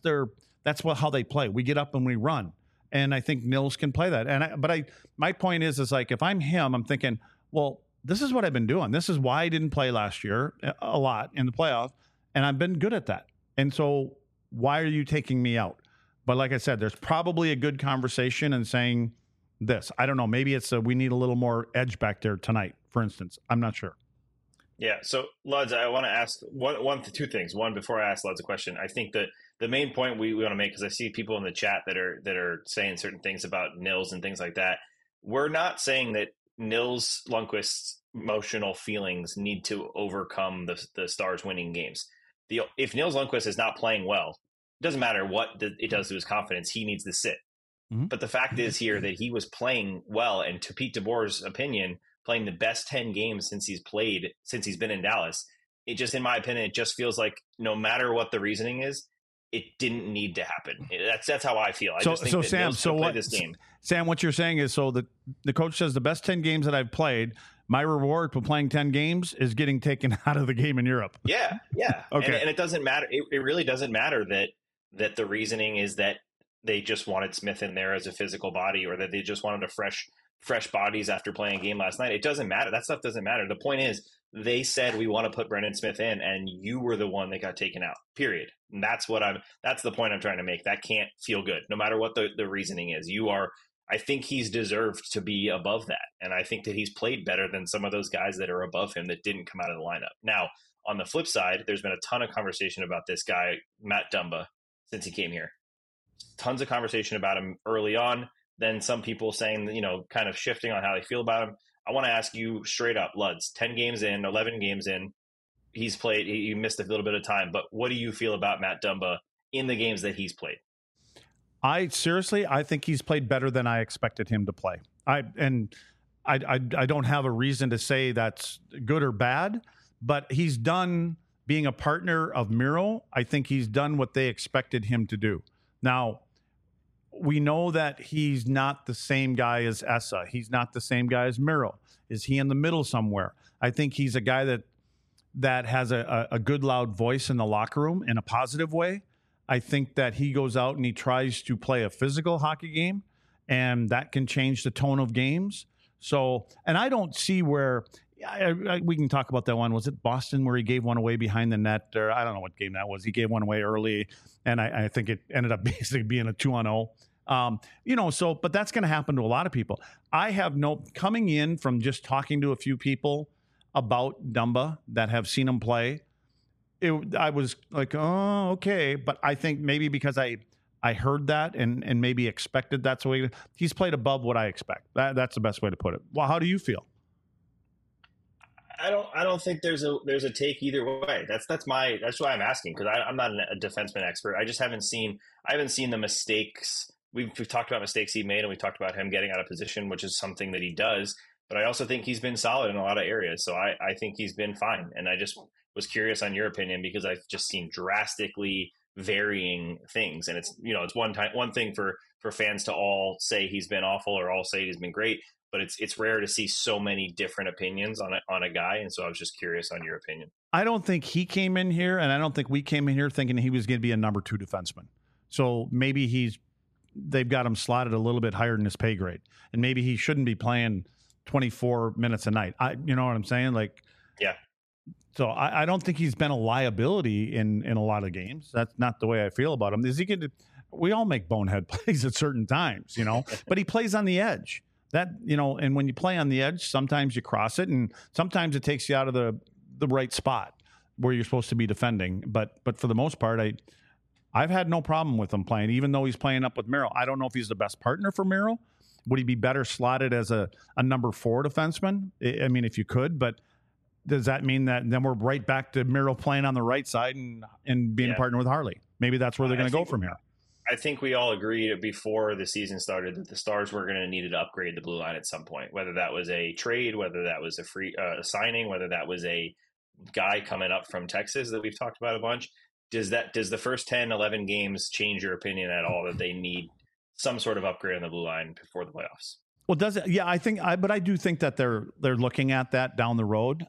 how they play. We get up and we run. And I think Nils can play that. But my point is like, if I'm him, I'm thinking, well, this is what I've been doing. This is why I didn't play last year a lot in the playoff, and I've been good at that. And so why are you taking me out? But like I said, there's probably a good conversation and saying this. I don't know. Maybe it's we need a little more edge back there tonight, for instance. I'm not sure. Yeah. So, Luds, I want to ask two things. One, before I ask Luds a question, I think that the main point we want to make, because I see people in the chat that are saying certain things about Nils and things like that. We're not saying that Nils Lundqvist's emotional feelings need to overcome the Stars winning games. If Nils Lundqvist is not playing well, it doesn't matter what it does to his confidence. He needs to sit. Mm-hmm. But the fact is here that he was playing well, and to Pete DeBoer's opinion, playing the best 10 games since he's been in Dallas. It just, in my opinion, it just feels like no matter what the reasoning is, it didn't need to happen. That's how I feel. I just think that Sam, Nils could play this game. Sam, what you're saying is, so the coach says the best 10 games that I've played, my reward for playing 10 games is getting taken out of the game in Europe. Yeah. Okay. And it doesn't matter. It really doesn't matter that the reasoning is that they just wanted Smith in there as a physical body, or that they just wanted a fresh bodies after playing a game last night. It doesn't matter. That stuff doesn't matter. The point is, they said we want to put Brendan Smith in, and you were the one that got taken out. Period. And that's the point I'm trying to make. That can't feel good, no matter what the reasoning is. I think he's deserved to be above that, and I think that he's played better than some of those guys that are above him that didn't come out of the lineup. Now, on the flip side, there's been a ton of conversation about this guy, Matt Dumba, since he came here. Tons of conversation about him early on. Then some people saying, kind of shifting on how they feel about him. I want to ask you straight up, Luds, 10 games in, 11 games in, he's played, he missed a little bit of time, but what do you feel about Matt Dumba in the games that he's played? I think he's played better than I expected him to play. I don't have a reason to say that's good or bad, but he's done being a partner of Miro. I think he's done what they expected him to do. Now, we know that he's not the same guy as Essa. He's not the same guy as Miro. Is he in the middle somewhere? I think he's a guy that has a good, loud voice in the locker room in a positive way. I think that he goes out and he tries to play a physical hockey game, and that can change the tone of games. So, and I don't see where we can talk about that one. Was it Boston where he gave one away behind the net? Or I don't know what game that was. He gave one away early, and I think it ended up basically being a 2-0. But that's going to happen to a lot of people. Coming in from just talking to a few people about Dumba that have seen him play, I was like, oh, okay. But I think maybe because I heard that and maybe expected that's the way he's played above what I expect. That's the best way to put it. Well, how do you feel? I don't think there's a take either way. That's why I'm asking, because I'm not a defenseman expert. I just haven't seen the mistakes. We've talked about mistakes he made, and we've talked about him getting out of position, which is something that he does. But I also think he's been solid in a lot of areas. So I think he's been fine. And I just was curious on your opinion, because I've just seen drastically varying things. And it's one thing for fans to all say he's been awful or all say he's been great, but it's rare to see so many different opinions on a guy. And so I was just curious on your opinion. I don't think he came in here, and I don't think we came in here thinking he was going to be a number 2 defenseman. So maybe they've got him slotted a little bit higher than his pay grade, and maybe he shouldn't be playing 24 minutes a night. You know what I'm saying? Like, yeah. So I don't think he's been a liability in a lot of games. That's not the way I feel about him. Is he going to? We all make bonehead plays at certain times, but he plays on the edge. And when you play on the edge, sometimes you cross it, and sometimes it takes you out of the right spot where you're supposed to be defending. But for the most part, I've had no problem with him playing, even though he's playing up with Miro. I don't know if he's the best partner for Miro, Would he be better slotted as a number 4 defenseman? I mean, if you could, but does that mean that then we're right back to Miro playing on the right side and being a partner with Harley? Maybe that's where they're going to go from here. I think we all agreed before the season started that the Stars were going to need to upgrade the blue line at some point, whether that was a trade, whether that was a free signing, whether that was a guy coming up from Texas that we've talked about a bunch. Does the first 10, 11 games change your opinion at all that they need some sort of upgrade on the blue line before the playoffs? Well, does it? Yeah, but I do think that they're looking at that down the road.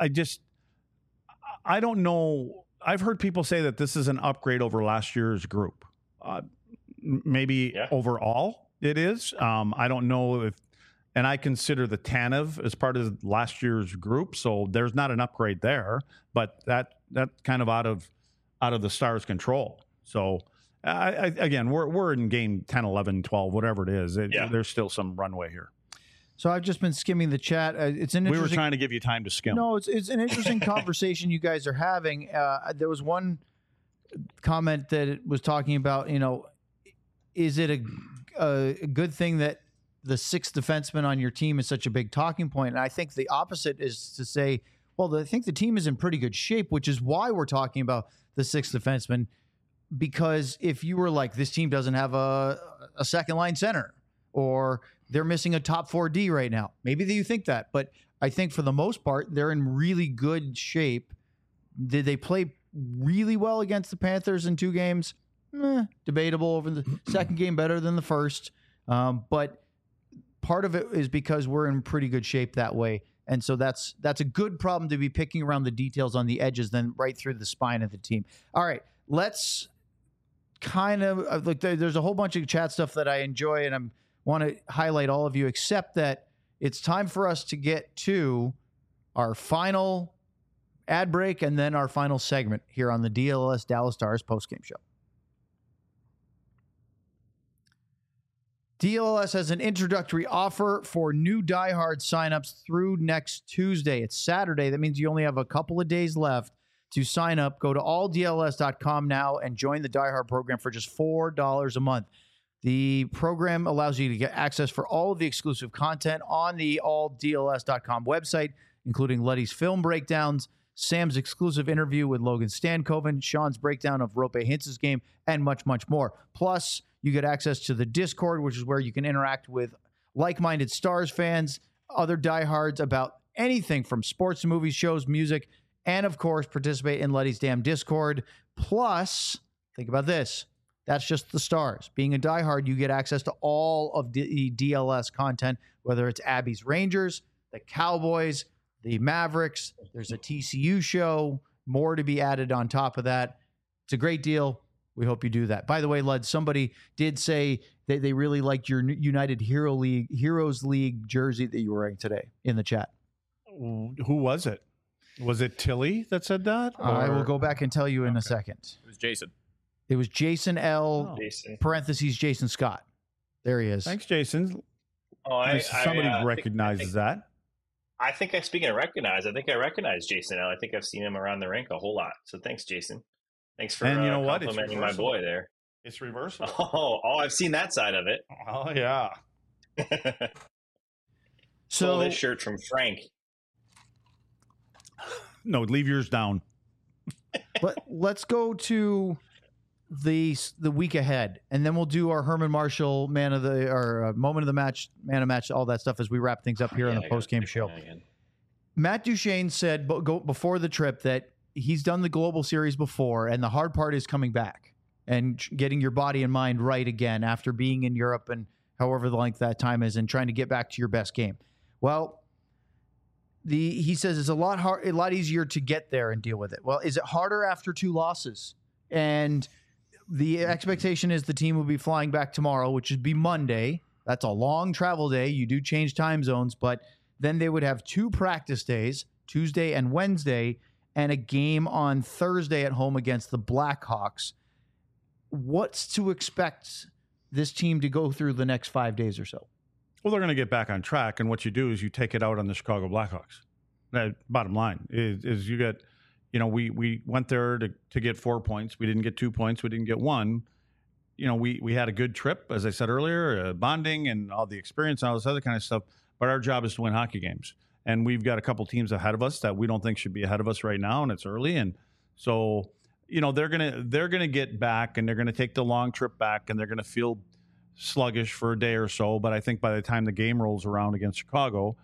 I don't know. I've heard people say that this is an upgrade over last year's group. Maybe overall it is. I don't know if, and I consider the Tanev as part of last year's group, so there's not an upgrade there. But that's kind of out of the Stars' control. So. Again, we're in game 10, 11, 12, whatever it is. There's still some runway here. So I've just been skimming the chat. It's an interesting. We were trying to give you time to skim. No, it's an interesting conversation you guys are having. There was one comment that it was talking about. Is it a good thing that the 6th defenseman on your team is such a big talking point? And I think the opposite is to say, well, I think the team is in pretty good shape, which is why we're talking about the 6th defenseman. Because if you were like, this team doesn't have a second line center, or they're missing a top 4D right now, maybe you think that. But I think for the most part, they're in really good shape. Did they play really well against the Panthers in 2 games? Debatable. Over the second game, better than the first. But part of it is because we're in pretty good shape that way. And so that's a good problem to be picking around the details on the edges than right through the spine of the team. All right, let's kind of like there's a whole bunch of chat stuff that I enjoy, and I want to highlight all of you, except that it's time for us to get to our final ad break and then our final segment here on the DLS Dallas Stars postgame show. DLS has an introductory offer for new diehard signups through next Tuesday. It's Saturday. That means you only have a couple of days left to sign up. Go to alldls.com now and join the diehard program for just $4 a month. The program allows you to get access for all of the exclusive content on the alldls.com website, including Letty's film breakdowns, Sam's exclusive interview with Logan Stankoven, Sean's breakdown of Rope Hintz's game, and much, much more. Plus, you get access to the Discord, which is where you can interact with like-minded Stars fans, other diehards about anything from sports, movies, shows, music, and, of course, participate in Letty's Damn Discord. Plus, think about this. That's just the Stars. Being a diehard, you get access to all of the DLS content, whether it's Abby's Rangers, the Cowboys, the Mavericks. There's a TCU show, more to be added on top of that. It's a great deal. We hope you do that. By the way, Lud, somebody did say that they really liked your United Heroes League jersey that you were wearing today in the chat. Who was it? Was it Tilly that said that? I will go back and tell you in a second. It was Jason. It was Jason L. Jason. Parentheses Jason Scott. There he is. Thanks, Jason. Oh, Somebody recognizes that. I think speaking of recognize, I think I recognize Jason L. I think I've seen him around the rink a whole lot. So thanks, Jason. Thanks for and you know what? complimenting my boy there. It's reversible. Oh, I've seen that side of it. Oh, yeah. Stole this shirt from Frank. No, leave yours down. Let's go to the week ahead, and then we'll do our Herman Marshall moment of the match, man of match, all that stuff as we wrap things up here on the post-game show. Matt Duchene said before the trip that he's done the global series before, and the hard part is coming back and getting your body and mind right again after being in Europe and however the length that time is, and trying to get back to your best game. Well, he says it's a lot easier to get there and deal with it. Well, is it harder after 2 losses? And the expectation is the team will be flying back tomorrow, which would be Monday. That's a long travel day. You do change time zones, but then they would have 2 practice days, Tuesday and Wednesday, and a game on Thursday at home against the Blackhawks. What's to expect this team to go through the next 5 days or so? Well, they're going to get back on track, and what you do is you take it out on the Chicago Blackhawks. That bottom line is you get, we went there to get 4 points. We didn't get 2 points. We didn't get 1. we had a good trip, as I said earlier, bonding and all the experience and all this other kind of stuff. But our job is to win hockey games. And we've got a couple teams ahead of us that we don't think should be ahead of us right now, and it's early. And so, they're gonna get back, and they're gonna take the long trip back, and they're gonna feel sluggish for a day or so. But I think by the time the game rolls around against Chicago,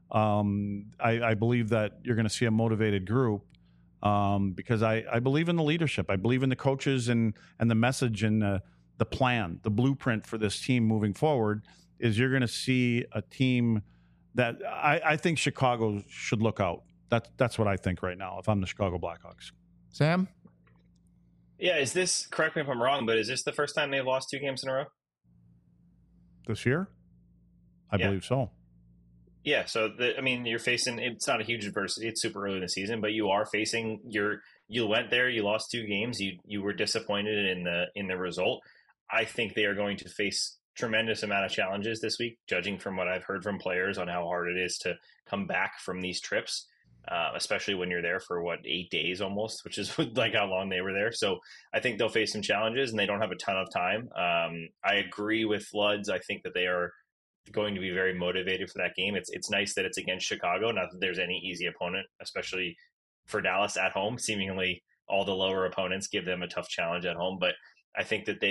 I believe that you're going to see a motivated group, because I believe in the leadership. I believe in the coaches and the message and the plan, the blueprint for this team moving forward. Is you're going to see a team that I think Chicago should look out. That's what I think right now if I'm the Chicago Blackhawks. Sam? Yeah, correct me if I'm wrong, but is this the first time they've lost 2 games in a row? This year? I believe so. Yeah, so you're facing. It's not a huge adversity. It's super early in the season, but you are facing You went there. You lost 2 games. You were disappointed in the result. I think they are going to face tremendous amount of challenges this week, judging from what I've heard from players on how hard it is to come back from these trips, especially when you're there for 8 days almost, which is like how long they were there. So I think they'll face some challenges, and they don't have a ton of time. I agree with Floods. I think that they are going to be very motivated for that game. It's nice that it's against Chicago. Not that there's any easy opponent, especially for Dallas at home. Seemingly all the lower opponents give them a tough challenge at home, but I think that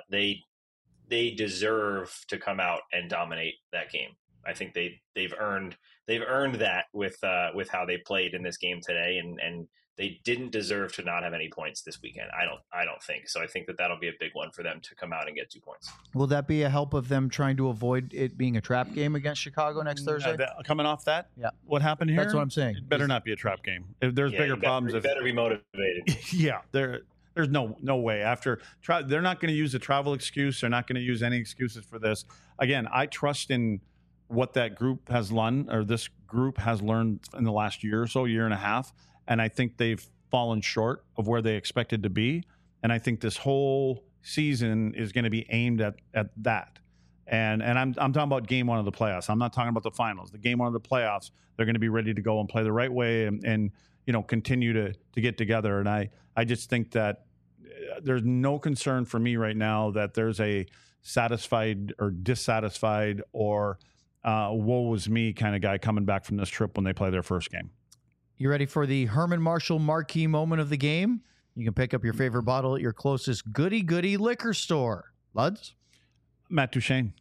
they deserve to come out and dominate that game. I think they've earned that with how they played in this game today, and they didn't deserve to not have any points this weekend. I don't think so. I think that that'll be a big one for them to come out and get 2 points. Will that be a help of them trying to avoid it being a trap game against Chicago next Thursday? Coming off that, yeah. What happened here? That's what I'm saying. It better not be a trap game. If there's bigger problems, you better be motivated. Yeah, there's no way. They're not going to use a travel excuse. They're not going to use any excuses for this. Again, I trust in what that group has learned, or this group has learned in the last year or so, year and a half. And I think they've fallen short of where they expected to be. And I think this whole season is going to be aimed at that. And I'm talking about game 1 of the playoffs. I'm not talking about the finals. The game 1 of the playoffs, they're going to be ready to go and play the right way and continue to get together. And I just think that there's no concern for me right now that there's a satisfied or dissatisfied or woe was me kind of guy coming back from this trip when they play their first game. You ready for the Herman Marshall marquee moment of the game? You can pick up your favorite bottle at your closest goody liquor store. Luds? Matt Duchene.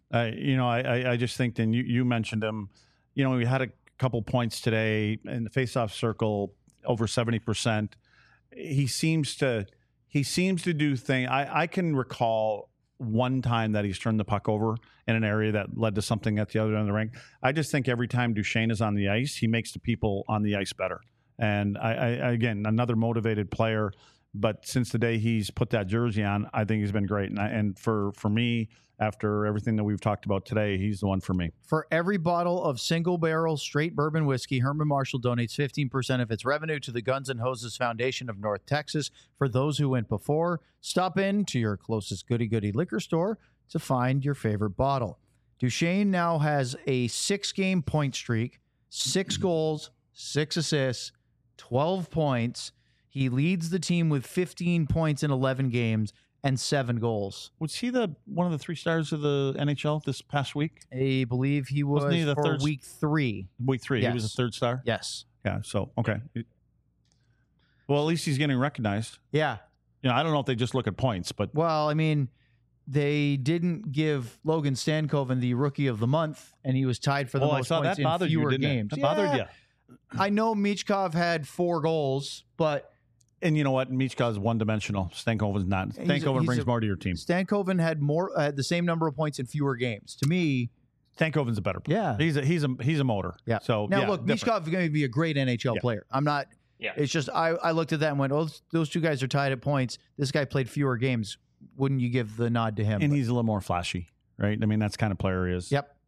I just think, and you mentioned him, we had a couple points today in the faceoff circle, over 70%. He seems to do things. I can recall one time that he's turned the puck over in an area that led to something at the other end of the rink. I just think every time Duchene is on the ice, he makes the people on the ice better. And I again, another motivated player. But since the day he's put that jersey on, I think he's been great. And for me, after everything that we've talked about today, he's the one for me. For every bottle of single barrel straight bourbon whiskey, Herman Marshall donates 15% of its revenue to the Guns N' Hoses Foundation of North Texas. For those who went before, stop in to your closest goody liquor store to find your favorite bottle. Duchene now has a 6-game point streak, 6 goals, 6 assists, 12 points. He leads the team with 15 points in 11 games and 7 goals. Was he one of the 3 stars of the NHL this past week? I believe he was for week 3. Week 3, yes. He was a 3rd star? Yes. Yeah, so, okay. Well, at least he's getting recognized. Yeah. I don't know if they just look at points, but... Well, I mean, they didn't give Logan Stankoven the Rookie of the Month, and he was tied for the most points in fewer games. That bothered you. I know Michkov had 4 goals, but... And you know what? Michkov's one-dimensional. Stankoven's not. Stankoven brings more to your team. Stankoven had the same number of points in fewer games. To me, Stankoven's a better player. Yeah, he's a motor. Yeah. So now look, Michkov is going to be a great NHL player. I'm not. Yeah. It's just I looked at that and went, "Oh, those 2 guys are tied at points. This guy played fewer games. Wouldn't you give the nod to him?" And he's a little more flashy, right? I mean, that's the kind of player he is. Yep.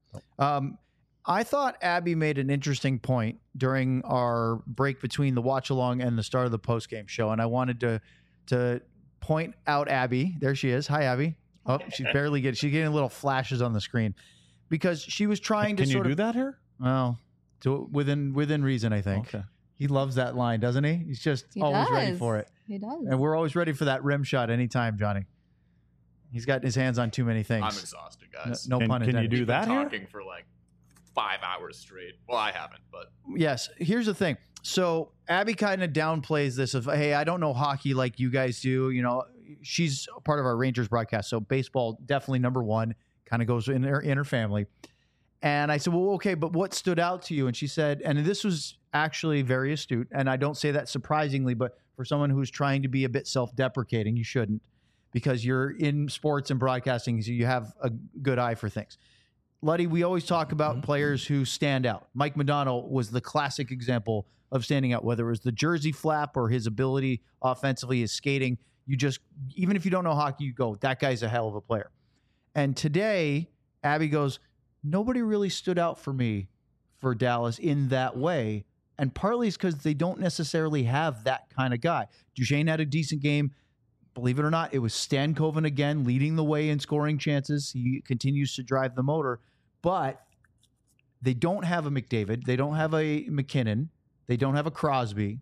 I thought Abby made an interesting point during our break between the watch along and the start of the post game show, and I wanted to point out Abby. There she is. Hi, Abby. Oh, she's getting little flashes on the screen because she was trying to. Can you do that here? Well, within reason, I think. Okay. He loves that line, doesn't he? He's just always ready for it. He does. And we're always ready for that rim shot anytime, Johnny. He's got his hands on too many things. I'm exhausted, guys. No pun intended. Can you do We've been that here? talking for like 5 hours straight. Well, I haven't, but Yes. Here's the thing. So Abby kind of downplays this of, hey, I don't know hockey like you guys do. You know, she's a part of our Rangers broadcast, so baseball definitely number one. Kind of goes in her family. And I said, well, okay, but what stood out to you? And she said, and this was actually very astute, and I don't say that surprisingly, but for someone who's trying to be a bit self-deprecating, you shouldn't, because you're in sports and broadcasting, so you have a good eye for things. Luddy, we always talk about players who stand out. Mike Modano was the classic example of standing out, whether it was the jersey flap or his ability offensively, his skating. You just, even if you don't know hockey, you go, that guy's a hell of a player. And today, Abby goes, nobody really stood out for me for Dallas in that way. And partly it's because they don't necessarily have that kind of guy. Duchesne had a decent game. Believe it or not, it was Stankoven again leading the way in scoring chances. He continues to drive the motor. But they don't have a McDavid. They don't have a McKinnon. They don't have a Crosby.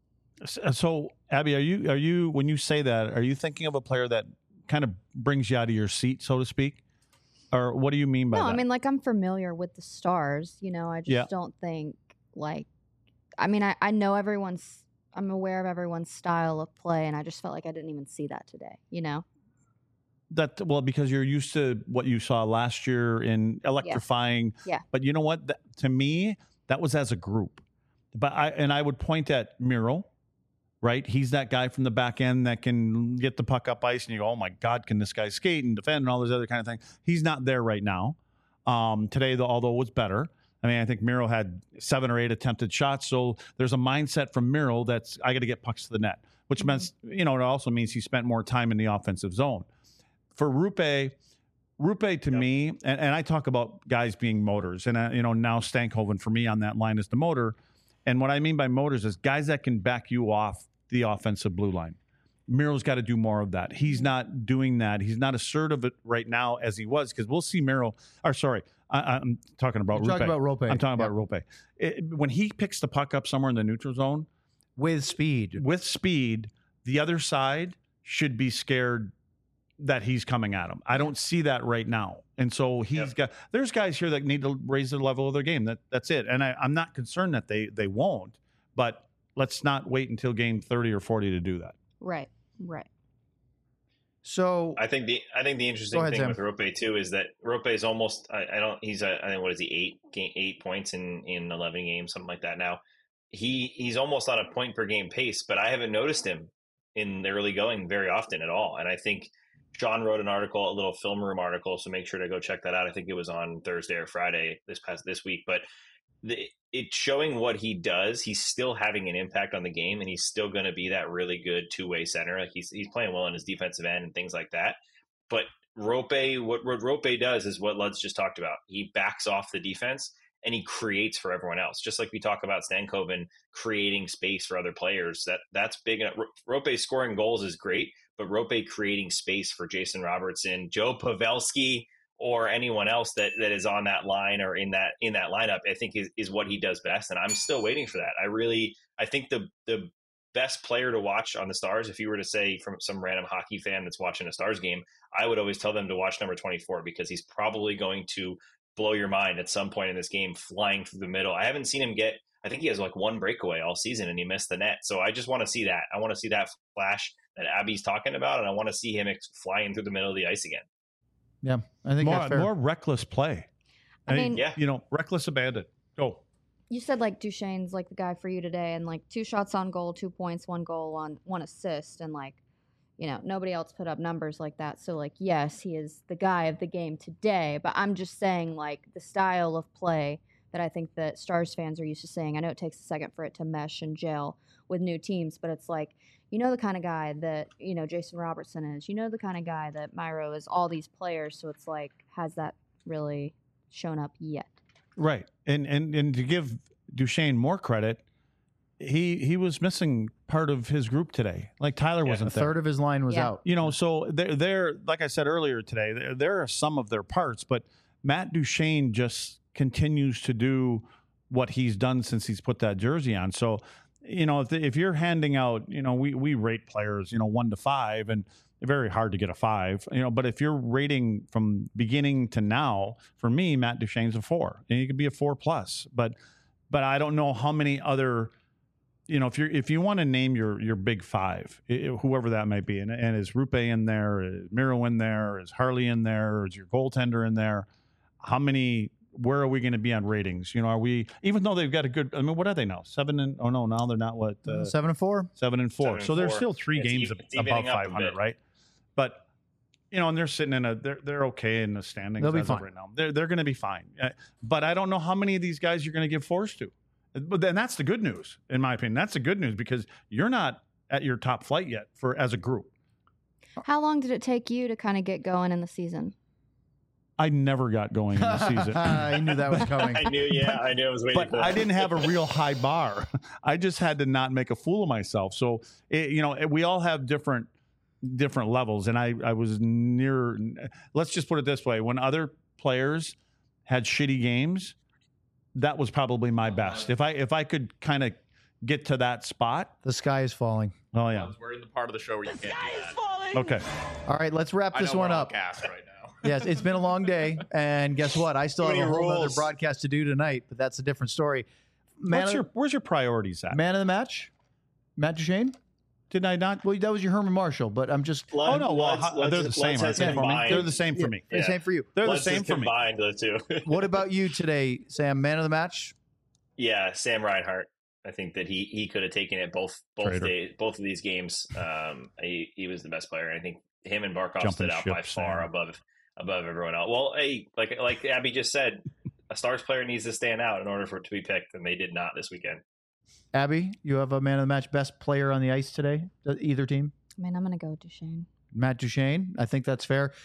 So, Abby, are you when you say that, are you thinking of a player that kind of brings you out of your seat, so to speak? Or what do you mean by that? No, I mean, like, I'm familiar with the Stars. You know, I just don't think, like, I mean, I know I'm aware of everyone's style of play, and I just felt like I didn't even see that today, you know? Because you're used to what you saw last year in electrifying. Yeah. But you know what? To me, that was as a group. But I would point at Miro, right? He's that guy from the back end that can get the puck up ice, and you go, oh my God, can this guy skate and defend and all those other kind of things? He's not there right now. Today, although it was better. I mean, I think Miro had 7 or 8 attempted shots. So there's a mindset from Miro that's, I got to get pucks to the net, which means, it also means he spent more time in the offensive zone. For Rupe to me, and I talk about guys being motors, and now Stankoven for me on that line is the motor. And what I mean by motors is guys that can back you off the offensive blue line. Miro's got to do more of that. He's not doing that. He's not assertive right now as he was, because we'll see Miro. I'm talking about Rupe. I'm talking about Rupe. When he picks the puck up somewhere in the neutral zone With speed, the other side should be scared that he's coming at him. I don't see that right now. And so there's guys here that need to raise the level of their game. That's it. And I'm not concerned that they won't, but let's not wait until game 30 or 40 to do that. Right. So I think the interesting thing with Rope too is that Rope is almost I think what is he 8 points in 11 games, something like that now. He's almost on a point per game pace, but I haven't noticed him in the early going very often at all. And I think Sean wrote a little film room article, so make sure to go check that out. I think it was on Thursday or Friday this week, but it's showing what he does. He's still having an impact on the game, and he's still going to be that really good two-way center. Like he's playing well in his defensive end and things like that. But what Rope does is what Lud's just talked about. He backs off the defense and he creates for everyone else. Just like we talk about Stankoven creating space for other players. That's big. Rope scoring goals is great, but Rope creating space for Jason Robertson, Joe Pavelski, or anyone else that is on that line or in that lineup, I think is what he does best. And I'm still waiting for that. I think the best player to watch on the Stars, if you were to say from some random hockey fan that's watching a Stars game, I would always tell them to watch number 24, because he's probably going to blow your mind at some point in this game, flying through the middle. I haven't seen him I think he has like 1 breakaway all season and he missed the net. So I just want to see that. I want to see that flash that Abby's talking about, and I want to see him flying through the middle of the ice again. Yeah, I think that's fair. More reckless play. I mean, reckless abandon. Go. You said like Duchesne's like the guy for you today, and like 2 shots on goal, 2 points, 1 goal on 1 assist, and like, nobody else put up numbers like that. So like, yes, he is the guy of the game today, but I'm just saying like the style of play that I think that Stars fans are used to seeing. I know it takes a second for it to mesh and gel with new teams, but it's like, the kind of guy that, Jason Robertson is, the kind of guy that Miro is, all these players. So it's like, has that really shown up yet? Right. And to give Duchesne more credit, he was missing part of his group today. Like Tyler wasn't there. A third of his line was out. So they're like I said earlier today, there are some of their parts, but Matt Duchesne just continues to do what he's done since he's put that jersey on. So if you're handing out, we rate players, 1 to 5, and very hard to get a 5, but if you're rating from beginning to now, for me, Matt Duchene's a 4, and he could be a 4+, but I don't know how many other, if you want to name your big 5, whoever that might be, and is Rupe in there, is Miro in there, is Harley in there, is your goaltender in there, where are we going to be on ratings? Are we, even though they've got a good, what are they now? 7 and, oh no, now they're not 7 and 4. 7 and 4. So there's still 3 It's games above 500, right? But, and they're sitting they're okay in the standings. They'll be fine right now. They're going to be fine. But I don't know how many of these guys you're going to give 4s to. But then that's the good news, in my opinion. That's the good news, because you're not at your top flight yet as a group. How long did it take you to kind of get going in the season? I never got going in the season. I knew that was coming. I knew I was waiting But for that. I didn't have a real high bar. I just had to not make a fool of myself. So, we all have different levels. And I was near, let's just put it this way. When other players had shitty games, that was probably my best. If I could kind of get to that spot. The sky is falling. Oh, yeah. We're in the part of the show where you can't do that. Okay. All right, let's wrap this one up. Cast right now. Yes, it's been a long day, and guess what? I still have a whole other broadcast to do tonight, but that's a different story. Where's your priorities at? Man of the match? Matt Duchene? Did I not? Well, that was your Herman Marshall, but I'm just... they're the same. They're the same for me. Yeah. Same for you. They're the same for me. Combined the two. What about you today, Sam? Man of the match? Yeah, Sam Reinhart. I think that he could have taken it both of these games. He was the best player. I think him and Barkov stood out by far above everyone else. Well, like Abby just said, a Stars player needs to stand out in order for it to be picked, and they did not this weekend. Abby, you have a man of the match, best player on the ice today, either team? Man, I'm going to go Duchene. Matt Duchene. I think that's fair.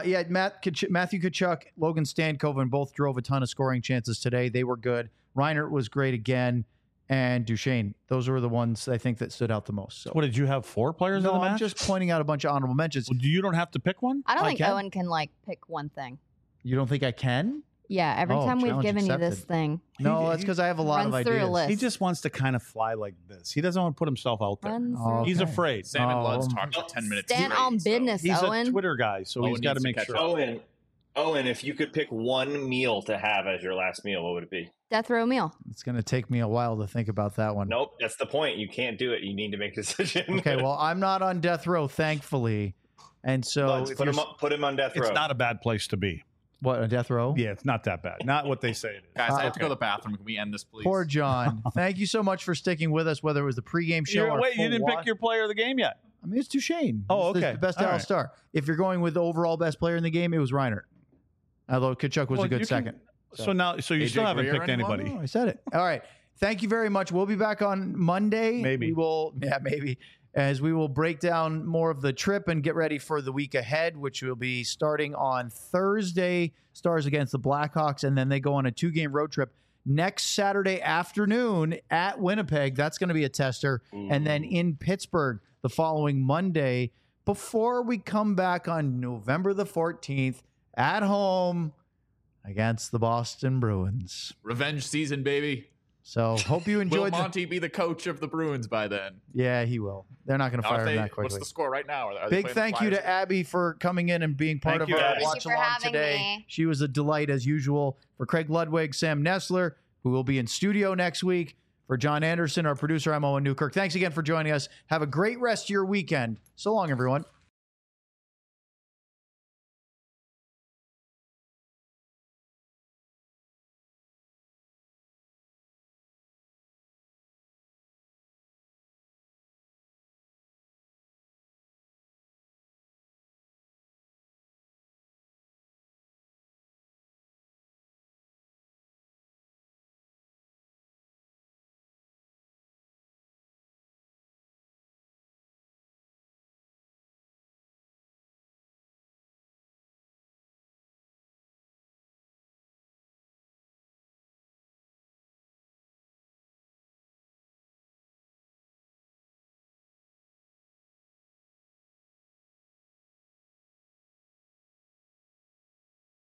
Matthew Tkachuk, Logan Stankoven both drove a ton of scoring chances today. They were good. Reinhart was great again. And Duchene. Those were the ones I think that stood out the most. So, what did you have? 4 players in the match? I'm just pointing out a bunch of honorable mentions. Well, you don't have to pick one? I don't think Owen can pick one thing. You don't think I can? Yeah, every time we've given you this thing. No, that's because I have a lot of ideas. He just wants to kind of fly like this. He doesn't want to put himself out there. He's afraid. Sam and Luds talked for 10 minutes. Stand on business, He's Owen. a Twitter guy, so he's got to make sure. Owen, if you could pick one meal to have as your last meal, what would it be? Death row meal. It's going to take me a while to think about that one. Nope, that's the point. You can't do it. You need to make a decision. Okay, well, I'm not on death row, thankfully. And so put him on death row. It's not a bad place to be. What, a death row? Yeah, it's not that bad. Not what they say it is. Guys, I have to go to the bathroom. Can we end this, please? Poor John. Thank you so much for sticking with us, whether it was the pregame show or wait, you didn't pick your player of the game yet. I mean, it's Duchene. Oh, It's okay. the best Dallas Star. If you're going with the overall best player in the game, it was Reinhart. Although Tkachuk was a good second. So you still haven't picked anybody. Oh, I said it. All right. Thank you very much. We'll be back on Monday. Maybe. Maybe. As we will break down more of the trip and get ready for the week ahead, which will be starting on Thursday, Stars against the Blackhawks, and then they go on a 2-game road trip next Saturday afternoon at Winnipeg. That's going to be a tester. And then in Pittsburgh the following Monday before we come back on November the 14th at home against the Boston Bruins. Revenge season, baby. So hope you enjoyed. Will Monty be the coach of the Bruins by then? Yeah, he will. They're not going to fire him that quickly. What's the score right now? Big thank you to Abby for coming in and being part of our watch along today. She was a delight as usual. For Craig Ludwig, Sam Nestler, who will be in studio next week. For John Anderson, our producer, I'm Owen Newkirk. Thanks again for joining us. Have a great rest of your weekend. So long, everyone.